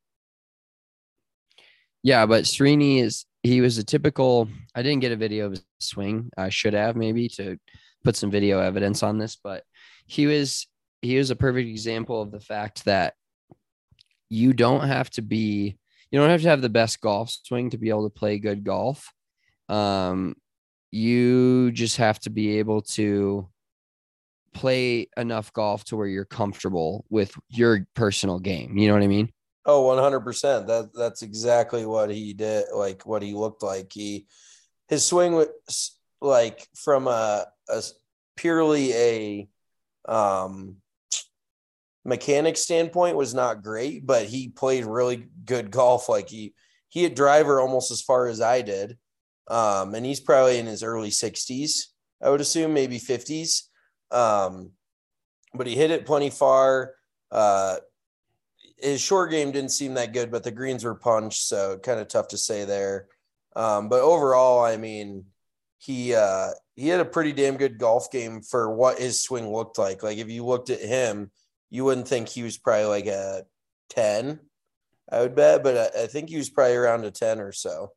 Yeah, but Srini is he was a typical. I didn't get a video of his swing. I should have maybe to put some video evidence on this, but he was he was a perfect example of the fact that you don't have to be you don't have to have the best golf swing to be able to play good golf. Um, you just have to be able to play enough golf to where you're comfortable with your personal game. You know what I mean? oh, one hundred percent. That that's exactly what he did, like what he looked like. He his swing was like from a, a purely a um mechanic standpoint was not great, but he played really good golf. Like he he hit driver almost as far as I did. Um, and he's probably in his early sixties, I would assume, maybe fifties. Um, but he hit it plenty far. Uh, his short game didn't seem that good, but the greens were punched, so kind of tough to say there. Um, but overall, I mean, he uh, he had a pretty damn good golf game for what his swing looked like. Like if you looked at him, you wouldn't think he was probably like a ten, I would bet, but I, I think he was probably around a ten or so.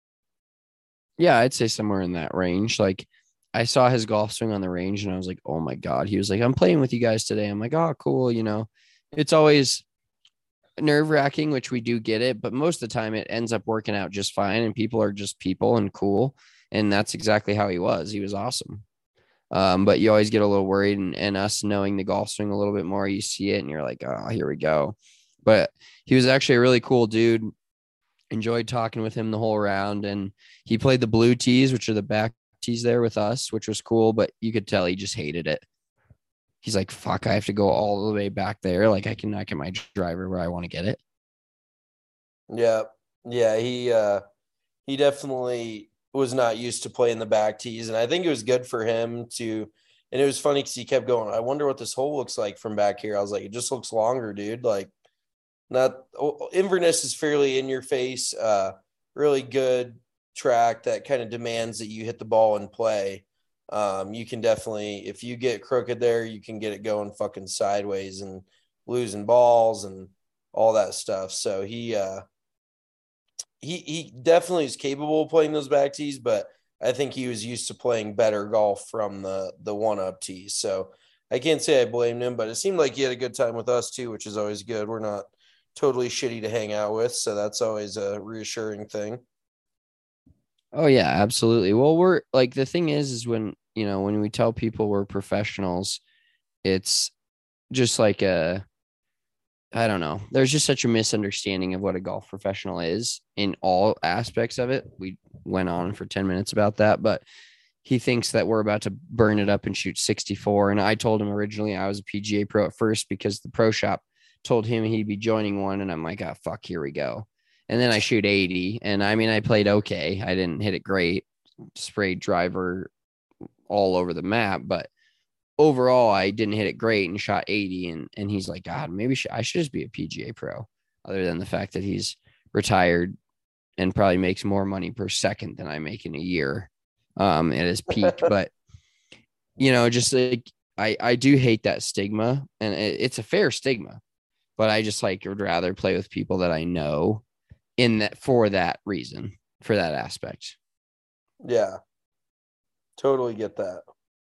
Yeah, I'd say somewhere in that range. Like I saw his golf swing on the range and I was like, oh my God. He was like, I'm playing with you guys today. I'm like, oh, cool. You know, it's always nerve wracking, which we do get it, but most of the time it ends up working out just fine. And people are just people and cool. And that's exactly how he was. He was awesome. Um, but you always get a little worried, and, and us knowing the golf swing a little bit more, you see it and you're like, oh, here we go. But he was actually a really cool dude. Enjoyed talking with him the whole round, and he played the blue tees, which are the back tees there with us, which was cool, but you could tell he just hated it. He's like, fuck, I have to go all the way back there. Like I can not get my driver where I want to get it. Yeah. Yeah. He, uh, he definitely was not used to playing the back tees. And I think it was good for him to, and it was funny because he kept going, I wonder what this hole looks like from back here. I was like, it just looks longer, dude. Like, not Inverness is fairly in your face, uh, really good track that kind of demands that you hit the ball and play. Um, you can definitely, if you get crooked there, you can get it going fucking sideways and losing balls and all that stuff. So he, uh, he, he definitely is capable of playing those back tees, but I think he was used to playing better golf from the, the one up tees. So I can't say I blamed him, but it seemed like he had a good time with us too, which is always good. We're not totally shitty to hang out with, so that's always a reassuring thing. Oh yeah, absolutely. Well, we're like, the thing is, is when, you know, when we tell people we're professionals, it's just like a, I don't know. There's just such a misunderstanding of what a golf professional is in all aspects of it. We went on for ten minutes about that, but he thinks that we're about to burn it up and shoot sixty-four. And I told him originally I was a P G A pro at first because the pro shop told him he'd be joining one. And I'm like, oh, fuck, here we go. And then I shoot eighty. And I mean, I played okay. I didn't hit it great, sprayed driver all over the map, but overall I didn't hit it great and shot eighty. And, and he's like, God, maybe I should just be a P G A pro, other than the fact that he's retired and probably makes more money per second than I make in a year um, at his peak. But, you know, just like, I, I do hate that stigma, and it, it's a fair stigma, but I just like would rather play with people that I know in that for that reason, for that aspect. Yeah, totally get that.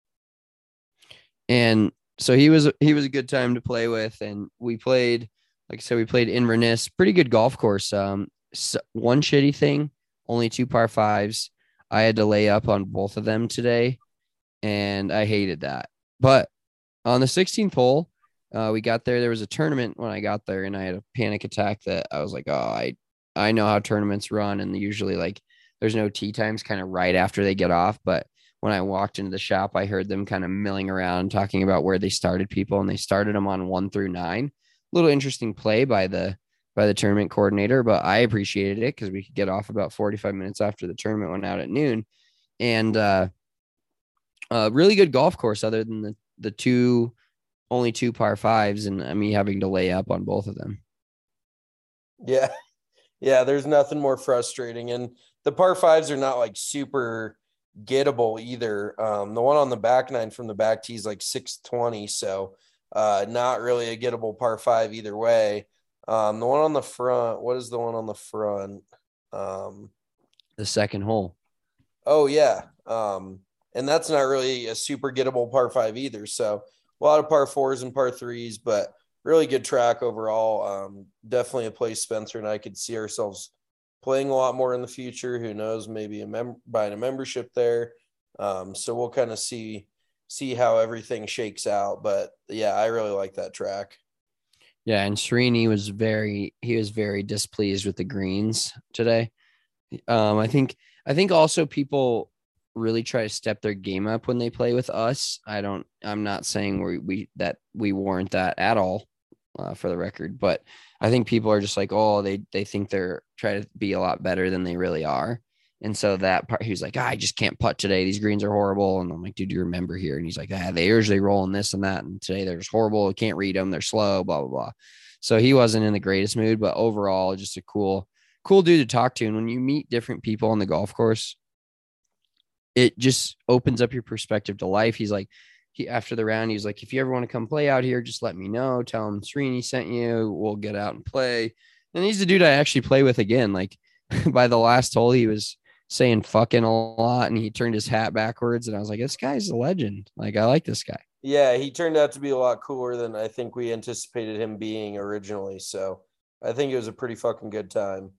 And so he was, he was a good time to play with. And we played, like I said, we played Inverness, pretty good golf course. Um, so one shitty thing, only two par fives. I had to lay up on both of them today, and I hated that. But on the sixteenth hole, uh, we got there. There was a tournament when I got there, and I had a panic attack that I was like, oh, I, I know how tournaments run. And usually like there's no tee times kind of right after they get off. But when I walked into the shop, I heard them kind of milling around talking about where they started people, and they started them on one through nine. A little interesting play by the, by the tournament coordinator, but I appreciated it because we could get off about forty-five minutes after the tournament went out at noon. And, uh, uh, really good golf course other than the, the two, only two par fives, and me having to lay up on both of them. Yeah. Yeah, there's nothing more frustrating. And the par fives are not like super gettable either. Um, the one on the back nine from the back tee is like six twenty. So uh, not really a gettable par five either way. Um, the one on the front, what is the one on the front? Um, The second hole. oh, yeah. Um, and that's not really a super gettable par five either. So a lot of par fours and par threes, but really good track overall. Um, definitely a place Spencer and I could see ourselves playing a lot more in the future. Who knows, maybe a mem- buying a membership there. Um, so we'll kind of see see how everything shakes out. But yeah, I really like that track. Yeah, and Srini was very he was very displeased with the greens today. Um, I think I think also people really try to step their game up when they play with us. I don't I'm not saying we we that we warrant that at all, uh, for the record, but I think people are just like, oh, they they think they're trying to be a lot better than they really are. And so that part, he was like, ah, I just can't putt today. These greens are horrible. And I'm like, dude, do you remember here? And he's like, ah, they usually roll in this and that. And today they're just horrible. I can't read them. They're slow, blah, blah, blah. So he wasn't in the greatest mood, but overall, just a cool, cool dude to talk to. And when you meet different people on the golf course, it just opens up your perspective to life. He's like, he, after the round, he's like, if you ever want to come play out here, just let me know. Tell him Srini sent you. We'll get out and play. And he's the dude I actually play with again. Like by the last hole, he was saying fucking a lot and he turned his hat backwards. And I was like, this guy's a legend. Like, I like this guy. Yeah, he turned out to be a lot cooler than I think we anticipated him being originally. So I think it was a pretty fucking good time.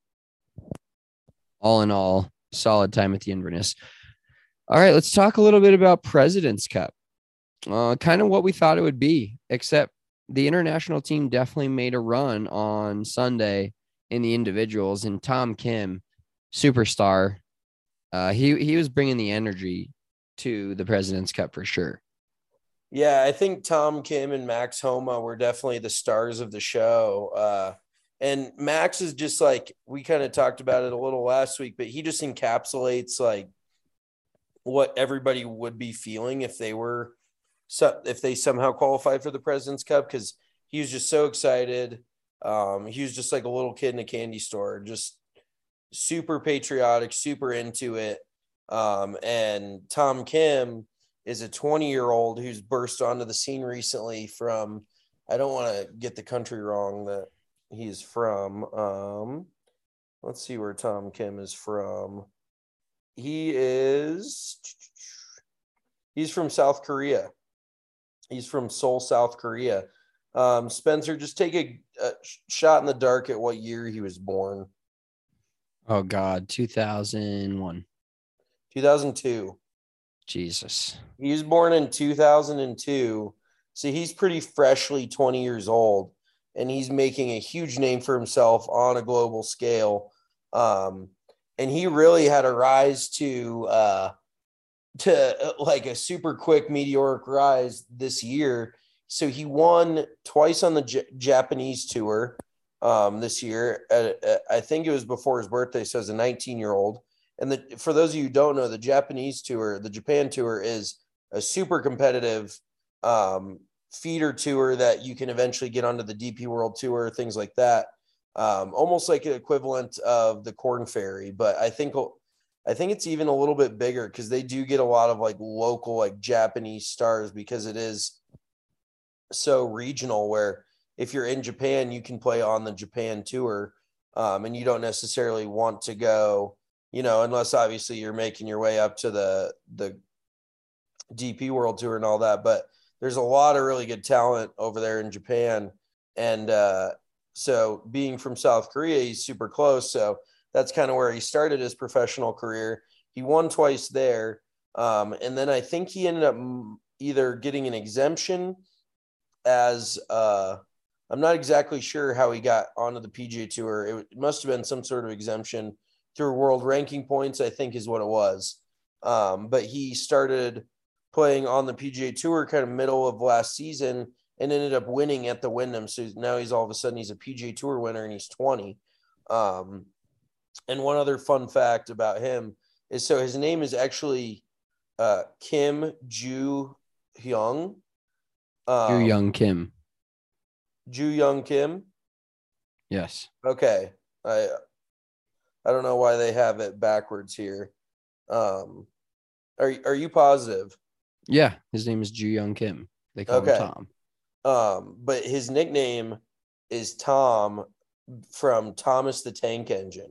All in all, solid time at the Inverness. All right, let's talk a little bit about President's Cup. Uh, kind of what we thought it would be, except the international team definitely made a run on Sunday in the individuals. And Tom Kim, superstar, uh, he he was bringing the energy to the President's Cup for sure. Yeah, I think Tom Kim and Max Homa were definitely the stars of the show. Uh, and Max is just like, we kind of talked about it a little last week, but he just encapsulates like what everybody would be feeling if they were, so if they somehow qualified for the President's Cup, because he was just so excited. Um, he was just like a little kid in a candy store, just super patriotic, super into it. Um, and Tom Kim is a twenty-year-old who's burst onto the scene recently from, I don't want to get the country wrong that he's from. Um, let's see where Tom Kim is from. He is, he's from South Korea. He's from Seoul, South Korea. Um, Spencer, just take a, a shot in the dark at what year he was born. Oh, God, two thousand one. two thousand two. Jesus. He was born in two thousand two. So he's pretty freshly twenty years old, and he's making a huge name for himself on a global scale. Um, and he really had a rise to uh, to like a super quick meteoric rise this year. So he won twice on the J- Japanese tour um, this year. Uh, I think it was before his birthday. So as a nineteen year old. And the, for those of you who don't know, the Japanese tour, the Japan tour is a super competitive um, feeder tour that you can eventually get onto the D P World Tour, things like that. Um, almost like an equivalent of the Corn Ferry. But I think I think it's even a little bit bigger because they do get a lot of like local, like Japanese stars because it is so regional where if you're in Japan, you can play on the Japan tour um, and you don't necessarily want to go, you know, unless obviously you're making your way up to the, the D P World Tour and all that, but there's a lot of really good talent over there in Japan. And uh, so being from South Korea, he's super close. So that's kind of where he started his professional career. He won twice there. Um, and then I think he ended up either getting an exemption as uh, I'm not exactly sure how he got onto the P G A Tour. It, it must have been some sort of exemption through world ranking points, I think is what it was. Um, but he started playing on the P G A Tour kind of middle of last season and ended up winning at the Wyndham. So now he's all of a sudden he's a P G A Tour winner and he's twenty. Um, and one other fun fact about him is so his name is actually uh, Kim Ju Hyung. Um, Ju Young Kim. Ju Young Kim. Yes. Okay. I I don't know why they have it backwards here. Um, are are you positive? Yeah, his name is Ju Young Kim. They call Okay. him Tom. Um, but his nickname is Tom from Thomas the Tank Engine.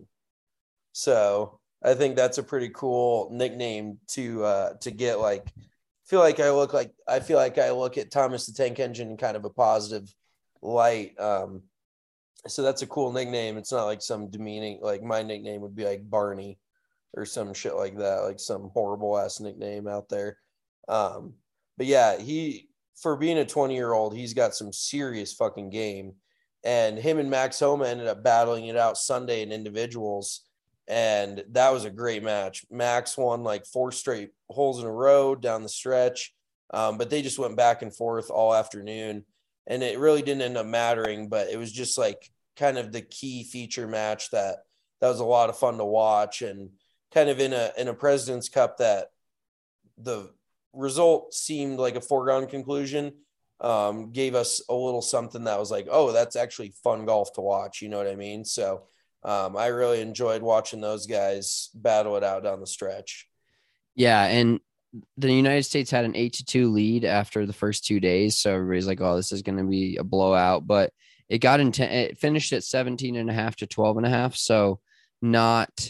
So I think that's a pretty cool nickname to uh, to get. Like, feel like I look like I feel like I look at Thomas the Tank Engine in kind of a positive light. Um, so that's a cool nickname. It's not like some demeaning. Like my nickname would be like Barney or some shit like that, like some horrible ass nickname out there. Um, but yeah, he for being a twenty year old, he's got some serious fucking game. And him and Max Homa ended up battling it out Sunday in individuals. And that was a great match. Max won like four straight holes in a row down the stretch. Um, but they just went back and forth all afternoon. And it really didn't end up mattering, but it was just like kind of the key feature match that that was a lot of fun to watch, and kind of in a in a President's Cup that the result seemed like a foregone conclusion. Um, gave us a little something that was like, oh, that's actually fun golf to watch. You know what I mean? So um, I really enjoyed watching those guys battle it out down the stretch. Yeah, and the United States had an eight to two lead after the first two days, so everybody's like, "Oh, this is going to be a blowout." But it got into it finished at seventeen and a half to twelve and a half, so not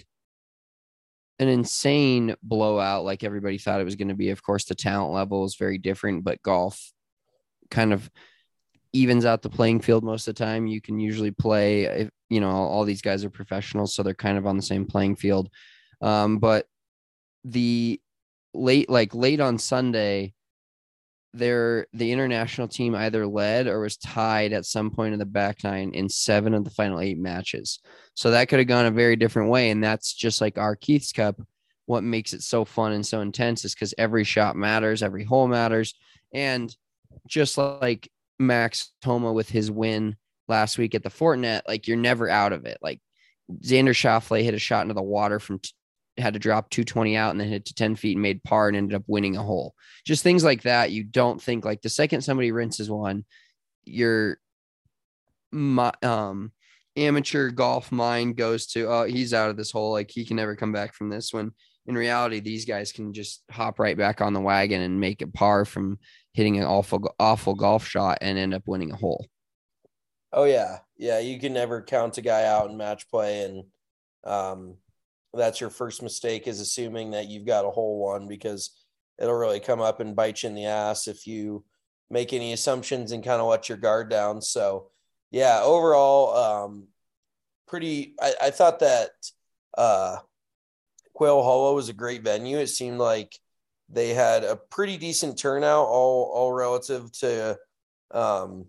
an insane blowout like everybody thought it was going to be. Of course, the talent level is very different, but golf kind of evens out the playing field most of the time. You can usually play, if, you know, all these guys are professionals, so they're kind of on the same playing field. Um, but the late, like late on Sunday, there the international team either led or was tied at some point in the back nine in seven of the final eight matches. So that could have gone a very different way. And that's just like our Keith's Cup. What makes it so fun and so intense is because every shot matters, every hole matters. And just like Max Homa with his win last week at the Fortinet, like you're never out of it. Like Xander Schauffele hit a shot into the water from t- had to drop two twenty out and then hit to ten feet and made par and ended up winning a hole. Just things like that. You don't think, like, the second somebody rinses one, your um, amateur golf mind goes to, oh, he's out of this hole. Like, he can never come back from this. When in reality, these guys can just hop right back on the wagon and make a par from hitting an awful, awful golf shot and end up winning a hole. Oh yeah. Yeah. You can never count a guy out in match play. And, um, that's your first mistake, is assuming that you've got a hole one, because it'll really come up and bite you in the ass if you make any assumptions and kind of let your guard down. So yeah, overall, um, pretty, I, I thought that, uh, Quail Hollow was a great venue. It seemed like they had a pretty decent turnout, all, all relative to, um,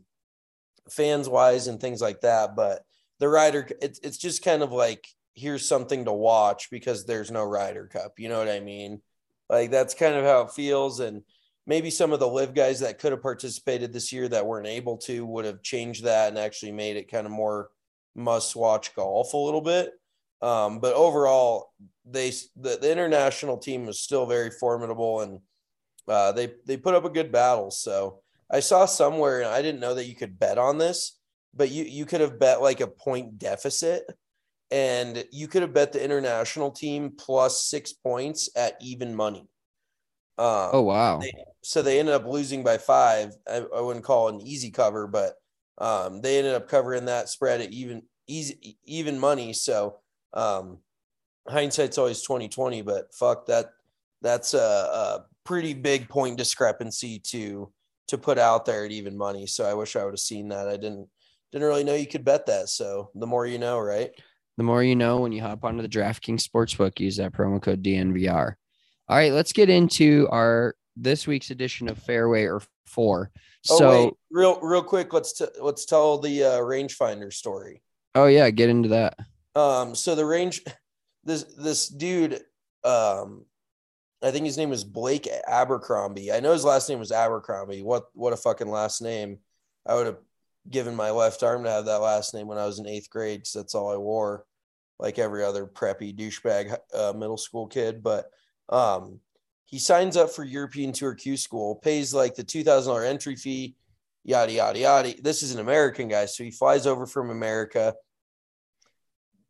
fans wise and things like that. But the Ryder, it's, it's just kind of like, here's something to watch because there's no Ryder Cup. You know what I mean? Like, that's kind of how it feels. And maybe some of the live guys that could have participated this year that weren't able to would have changed that and actually made it kind of more must watch golf a little bit. Um, but overall, they, the, the international team was still very formidable, and uh, they, they put up a good battle. So I saw somewhere, and I didn't know that you could bet on this, but you, you could have bet like a point deficit, and you could have bet the international team plus six points at even money. Um, oh, wow. They, so they ended up losing by five. I, I wouldn't call it an easy cover, but um, they ended up covering that spread at even easy, even money. So um, hindsight's always twenty twenty, but fuck that. That's a, a pretty big point discrepancy to, to put out there at even money. So I wish I would have seen that. I didn't, didn't really know you could bet that. So the more you know, right? The more you know. When you hop onto the DraftKings Sportsbook, use that promo code D N V R. All right, let's get into our this week's edition of Fairway or Four. Oh, so, wait, real, real quick, let's t- let's tell the uh, rangefinder story. Oh yeah, get into that. Um, so the range, this this dude, um, I think his name was Blake Abercrombie. I know his last name was Abercrombie. What what a fucking last name! I would have given my left arm to have that last name when I was in eighth grade, because that's all I wore, like every other preppy douchebag uh, middle school kid. But um, he signs up for European Tour Q School, pays like the two thousand dollars entry fee, yada, yada, yada. This is an American guy, so he flies over from America,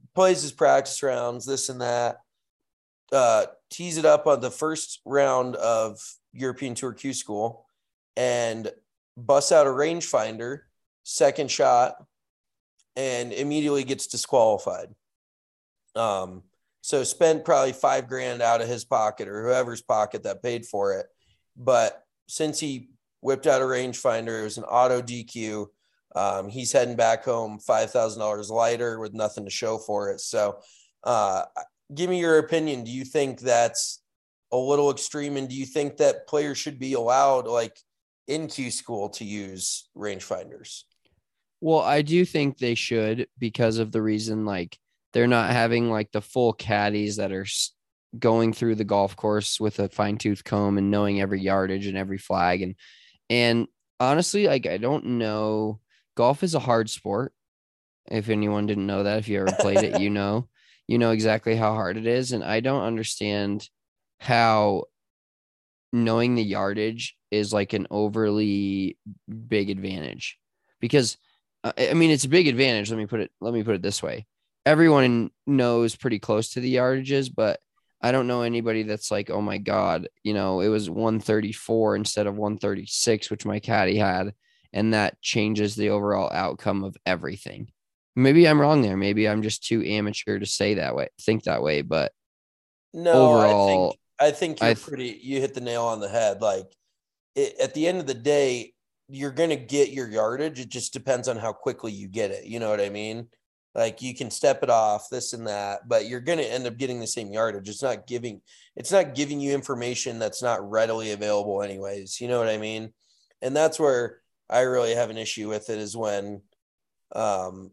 plays his practice rounds, this and that. Uh, tees it up on the first round of European Tour Q School and busts out a rangefinder, second shot, and immediately gets disqualified. Um, so spent probably five grand out of his pocket or whoever's pocket that paid for it. But since he whipped out a rangefinder, it was an auto D Q. Um, he's heading back home five thousand dollars lighter with nothing to show for it. So, uh, give me your opinion. Do you think that's a little extreme? And do you think that players should be allowed, like in Q School, to use rangefinders? Well, I do think they should, because of the reason, like, they're not having like the full caddies that are going through the golf course with a fine tooth comb and knowing every yardage and every flag. And, and honestly, like, I don't know, golf is a hard sport. If anyone didn't know that, if you ever played it, you know, you know exactly how hard it is. And I don't understand how knowing the yardage is like an overly big advantage, because uh, I mean, it's a big advantage. Let me put it, let me put it this way. Everyone knows pretty close to the yardages, but I don't know anybody that's like, oh my God, you know, it was one thirty-four instead of one thirty-six, which my caddy had. And that changes the overall outcome of everything. Maybe I'm wrong there. Maybe I'm just too amateur to say that way, think that way. But no, overall, I think, I think you're I th- pretty, you hit the nail on the head. Like it, at the end of the day, you're going to get your yardage. It just depends on how quickly you get it. You know what I mean? Like you can step it off, this and that, but you're going to end up getting the same yardage. It's not giving, it's not giving you information that's not readily available anyways. You know what I mean? And that's where I really have an issue with it, is when, um,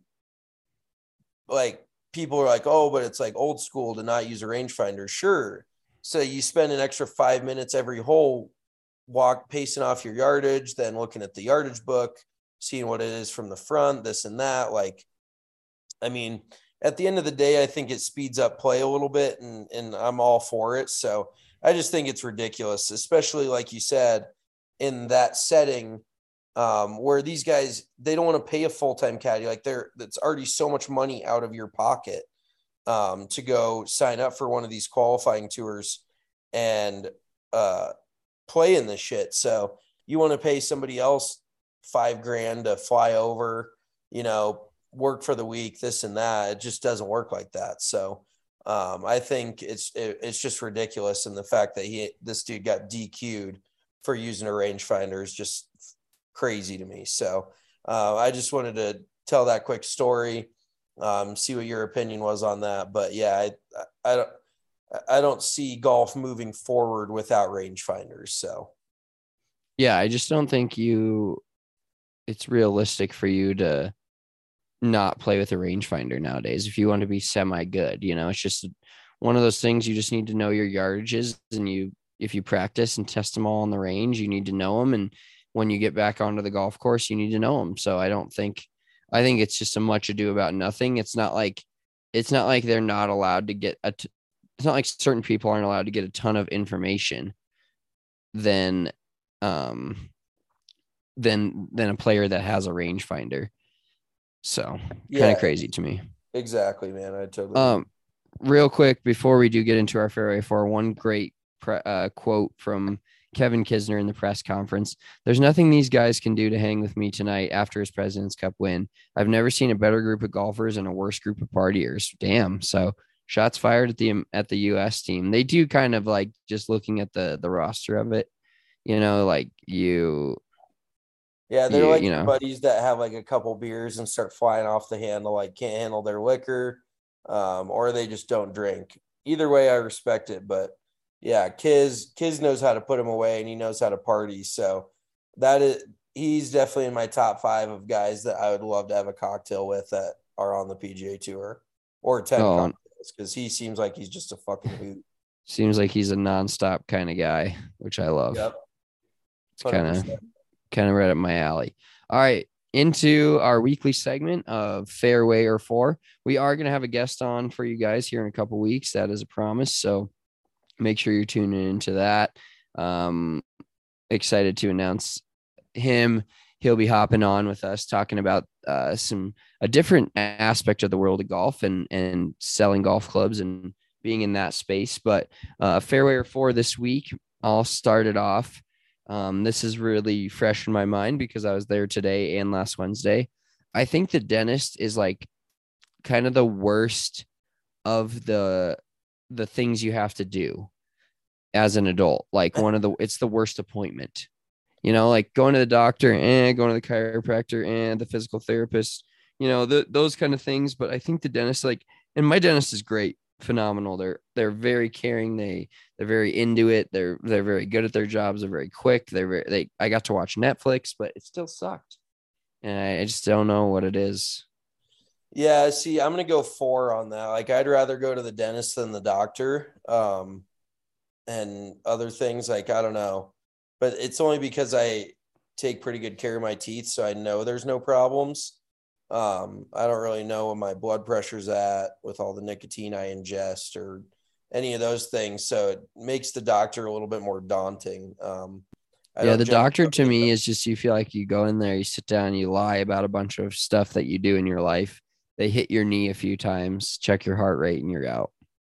like people are like, oh, but it's like old school to not use a rangefinder. Sure. So you spend an extra five minutes every hole walk, pacing off your yardage, then looking at the yardage book, seeing what it is from the front, this and that. Like, I mean, at the end of the day, I think it speeds up play a little bit, and, and I'm all for it. So I just think it's ridiculous, especially like you said, in that setting, um, where these guys, they don't want to pay a full-time caddy. Like they're, that's already so much money out of your pocket, um, to go sign up for one of these qualifying tours and, uh, play in this shit. So you want to pay somebody else five grand to fly over, you know, work for the week, this and that. It just doesn't work like that. So, um, I think it's, it, it's just ridiculous. And the fact that he, this dude got D Q'd for using a rangefinder is just crazy to me. So uh, I just wanted to tell that quick story, um, see what your opinion was on that. But yeah, I, I don't, I don't see golf moving forward without rangefinders. So yeah, I just don't think you, it's realistic for you to not play with a rangefinder nowadays. If you want to be semi good, you know, it's just one of those things. You just need to know your yardages, and you, if you practice and test them all on the range, you need to know them. And when you get back onto the golf course, you need to know them. So I don't think, I think it's just a much ado about nothing. It's not like, it's not like they're not allowed to get a, t- it's not like certain people aren't allowed to get a ton of information than, um, than, than a player that has a rangefinder. So yeah, kind of crazy to me. Exactly, man. I totally, um, real quick, before we do get into our fairway four, one great pre- uh, quote from Kevin Kisner in the press conference. There's nothing these guys can do to hang with me tonight after his President's Cup win. I've never seen a better group of golfers and a worse group of partiers. Damn. So shots fired at the, at the U S team. They do kind of like, just looking at the, the roster of it, you know, like you, yeah, they're you, like you know, buddies that have like a couple beers and start flying off the handle, like can't handle their liquor, um, or they just don't drink. Either way, I respect it, but yeah, Kiz, Kiz knows how to put him away, and he knows how to party. So that is, he's definitely in my top five of guys that I would love to have a cocktail with that are on the P G A Tour, or ten Oh. cocktails, because he seems like he's just a fucking hoot. seems like he's a nonstop kind of guy, which I love. Yep. It's kind of, kind of right up my alley. All right. Into our weekly segment of Fairway or Four. We are going to have a guest on for you guys here in a couple weeks. That is a promise. So make sure you're tuning into that. Um, excited to announce him. he'll be hopping on with us talking about uh, some a different aspect of the world of golf and and selling golf clubs and being in that space. But uh, fairway or four this week, I'll start it off. Um, this is really fresh in my mind because I was there today and last Wednesday. I think the dentist is like kind of the worst of the the things you have to do as an adult. Like one of the it's the worst appointment. You know, like going to the doctor and going to the chiropractor and the physical therapist, you know, the, those kind of things. But I think the dentist, like, and my dentist is great, phenomenal. They're, they're very caring. They, they're very into it. They're, they're very good at their jobs. They're very quick. They're very, they, I got to watch Netflix, but it still sucked. And I, I just don't know what it is. Yeah. See, I'm going to go four on that. Like, I'd rather go to the dentist than the doctor. Um, and other things, like, I don't know. But it's only because I take pretty good care of my teeth, so I know there's no problems. Um, I don't really know what my blood pressure's at with all the nicotine I ingest or any of those things. So it makes the doctor a little bit more daunting. Um, I yeah, the doctor to me is just you feel like you go in there, you sit down, you lie about a bunch of stuff that you do in your life. They hit your knee a few times, check your heart rate, and you're out.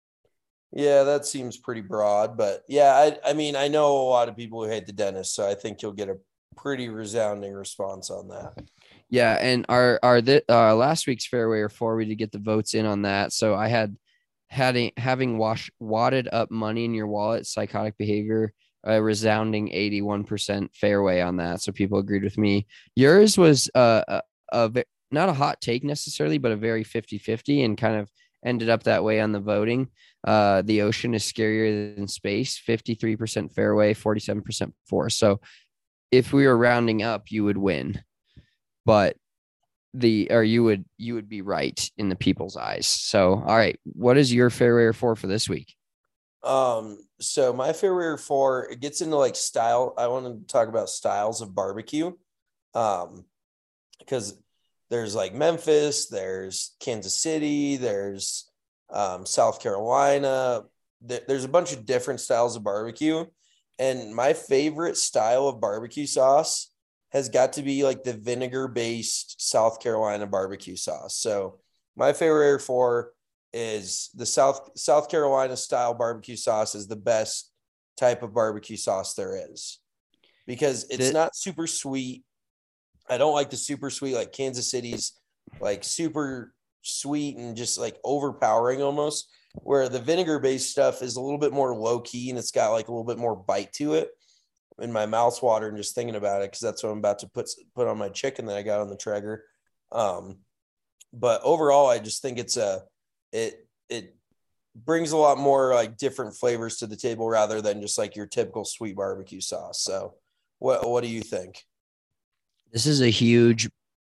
Yeah, that seems pretty broad, but yeah, I, I mean, I know a lot of people who hate the dentist, so I think you'll get a pretty resounding response on that. Yeah, and our our the, uh, last week's fairway or four, we did get the votes in on that. So I had had a, having wash wadded up money in your wallet, psychotic behavior, a resounding eighty-one percent fairway on that. So people agreed with me. Yours was uh, a, a not a hot take necessarily, but a very fifty-fifty and kind of ended up that way on the voting. Uh, the ocean is scarier than space, fifty-three percent fairway, forty-seven percent force. So if we were rounding up, you would win, but the, or you would, you would be right in the people's eyes. So, all right. What is your fairway or four for this week? Um, so my fairway or four, it gets into like style. I want to talk about styles of barbecue. Um, because there's like Memphis, there's Kansas City, there's um, South Carolina. There's a bunch of different styles of barbecue. And my favorite style of barbecue sauce has got to be like the vinegar-based South Carolina barbecue sauce. So my favorite four is the South South Carolina style barbecue sauce is the best type of barbecue sauce there is because it's it, not super sweet. I don't like the super sweet, like Kansas City's like super sweet and just like overpowering almost, where the vinegar based stuff is a little bit more low key and it's got like a little bit more bite to it. In my mouth's watering just thinking about it, because that's what I'm about to put put on my chicken that I got on the Traeger. Um, but overall, I just think it's a it it brings a lot more like different flavors to the table rather than just like your typical sweet barbecue sauce. So, what what do you think? This is a huge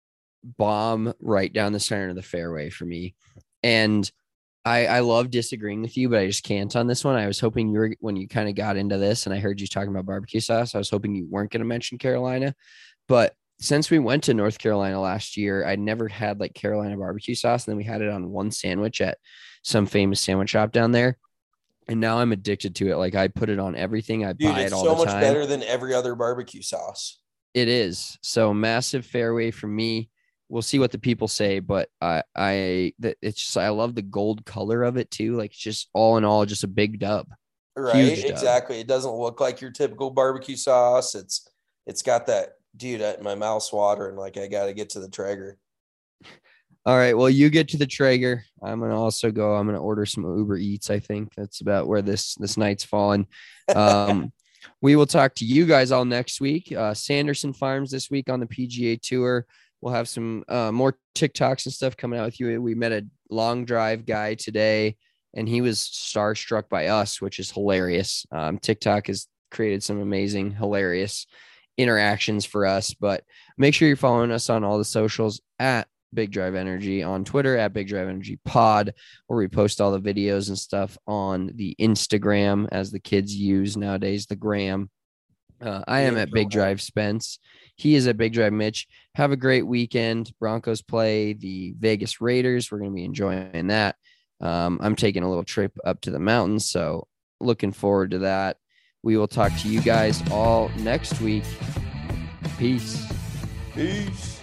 bomb right down the center of the fairway for me, and I, I love disagreeing with you, but I just can't on this one. I was hoping you were, when you kind of got into this and I heard you talking about barbecue sauce, I was hoping you weren't going to mention Carolina. But since we went to North Carolina last year, I never had like Carolina barbecue sauce. And then we had it on one sandwich at some famous sandwich shop down there. And now I'm addicted to it. Like I put it on everything. I Dude, buy it all so the time. It's so much better than every other barbecue sauce. It is. So massive fairway for me. We'll see what the people say, but I, I, that it's just, I love the gold color of it too. Like it's just all in all, just a big dub. Right. Huge dub. Exactly. It doesn't look like your typical barbecue sauce. It's, it's got that, dude, my mouth's watering. Like I got to get to the Traeger. All right. Well, you get to the Traeger. I'm going to also go, I'm going to order some Uber Eats. I think that's about where this, this night's fallen. Um, we will talk to you guys all next week. Uh, Sanderson Farms this week on the P G A Tour. We'll have some uh, more TikToks and stuff coming out with you. We met a long drive guy today, and he was starstruck by us, which is hilarious. Um, TikTok has created some amazing, hilarious interactions for us. But make sure you're following us on all the socials at Big Drive Energy, on Twitter at Big Drive Energy Pod, where we post all the videos and stuff on the Instagram, as the kids use nowadays, the gram. Uh, I am at Big Drive Spence. He is at Big Drive Mitch. Have a great weekend. Broncos play the Vegas Raiders. We're going to be enjoying that. Um, I'm taking a little trip up to the mountains, so looking forward to that. We will talk to you guys all next week. Peace. Peace.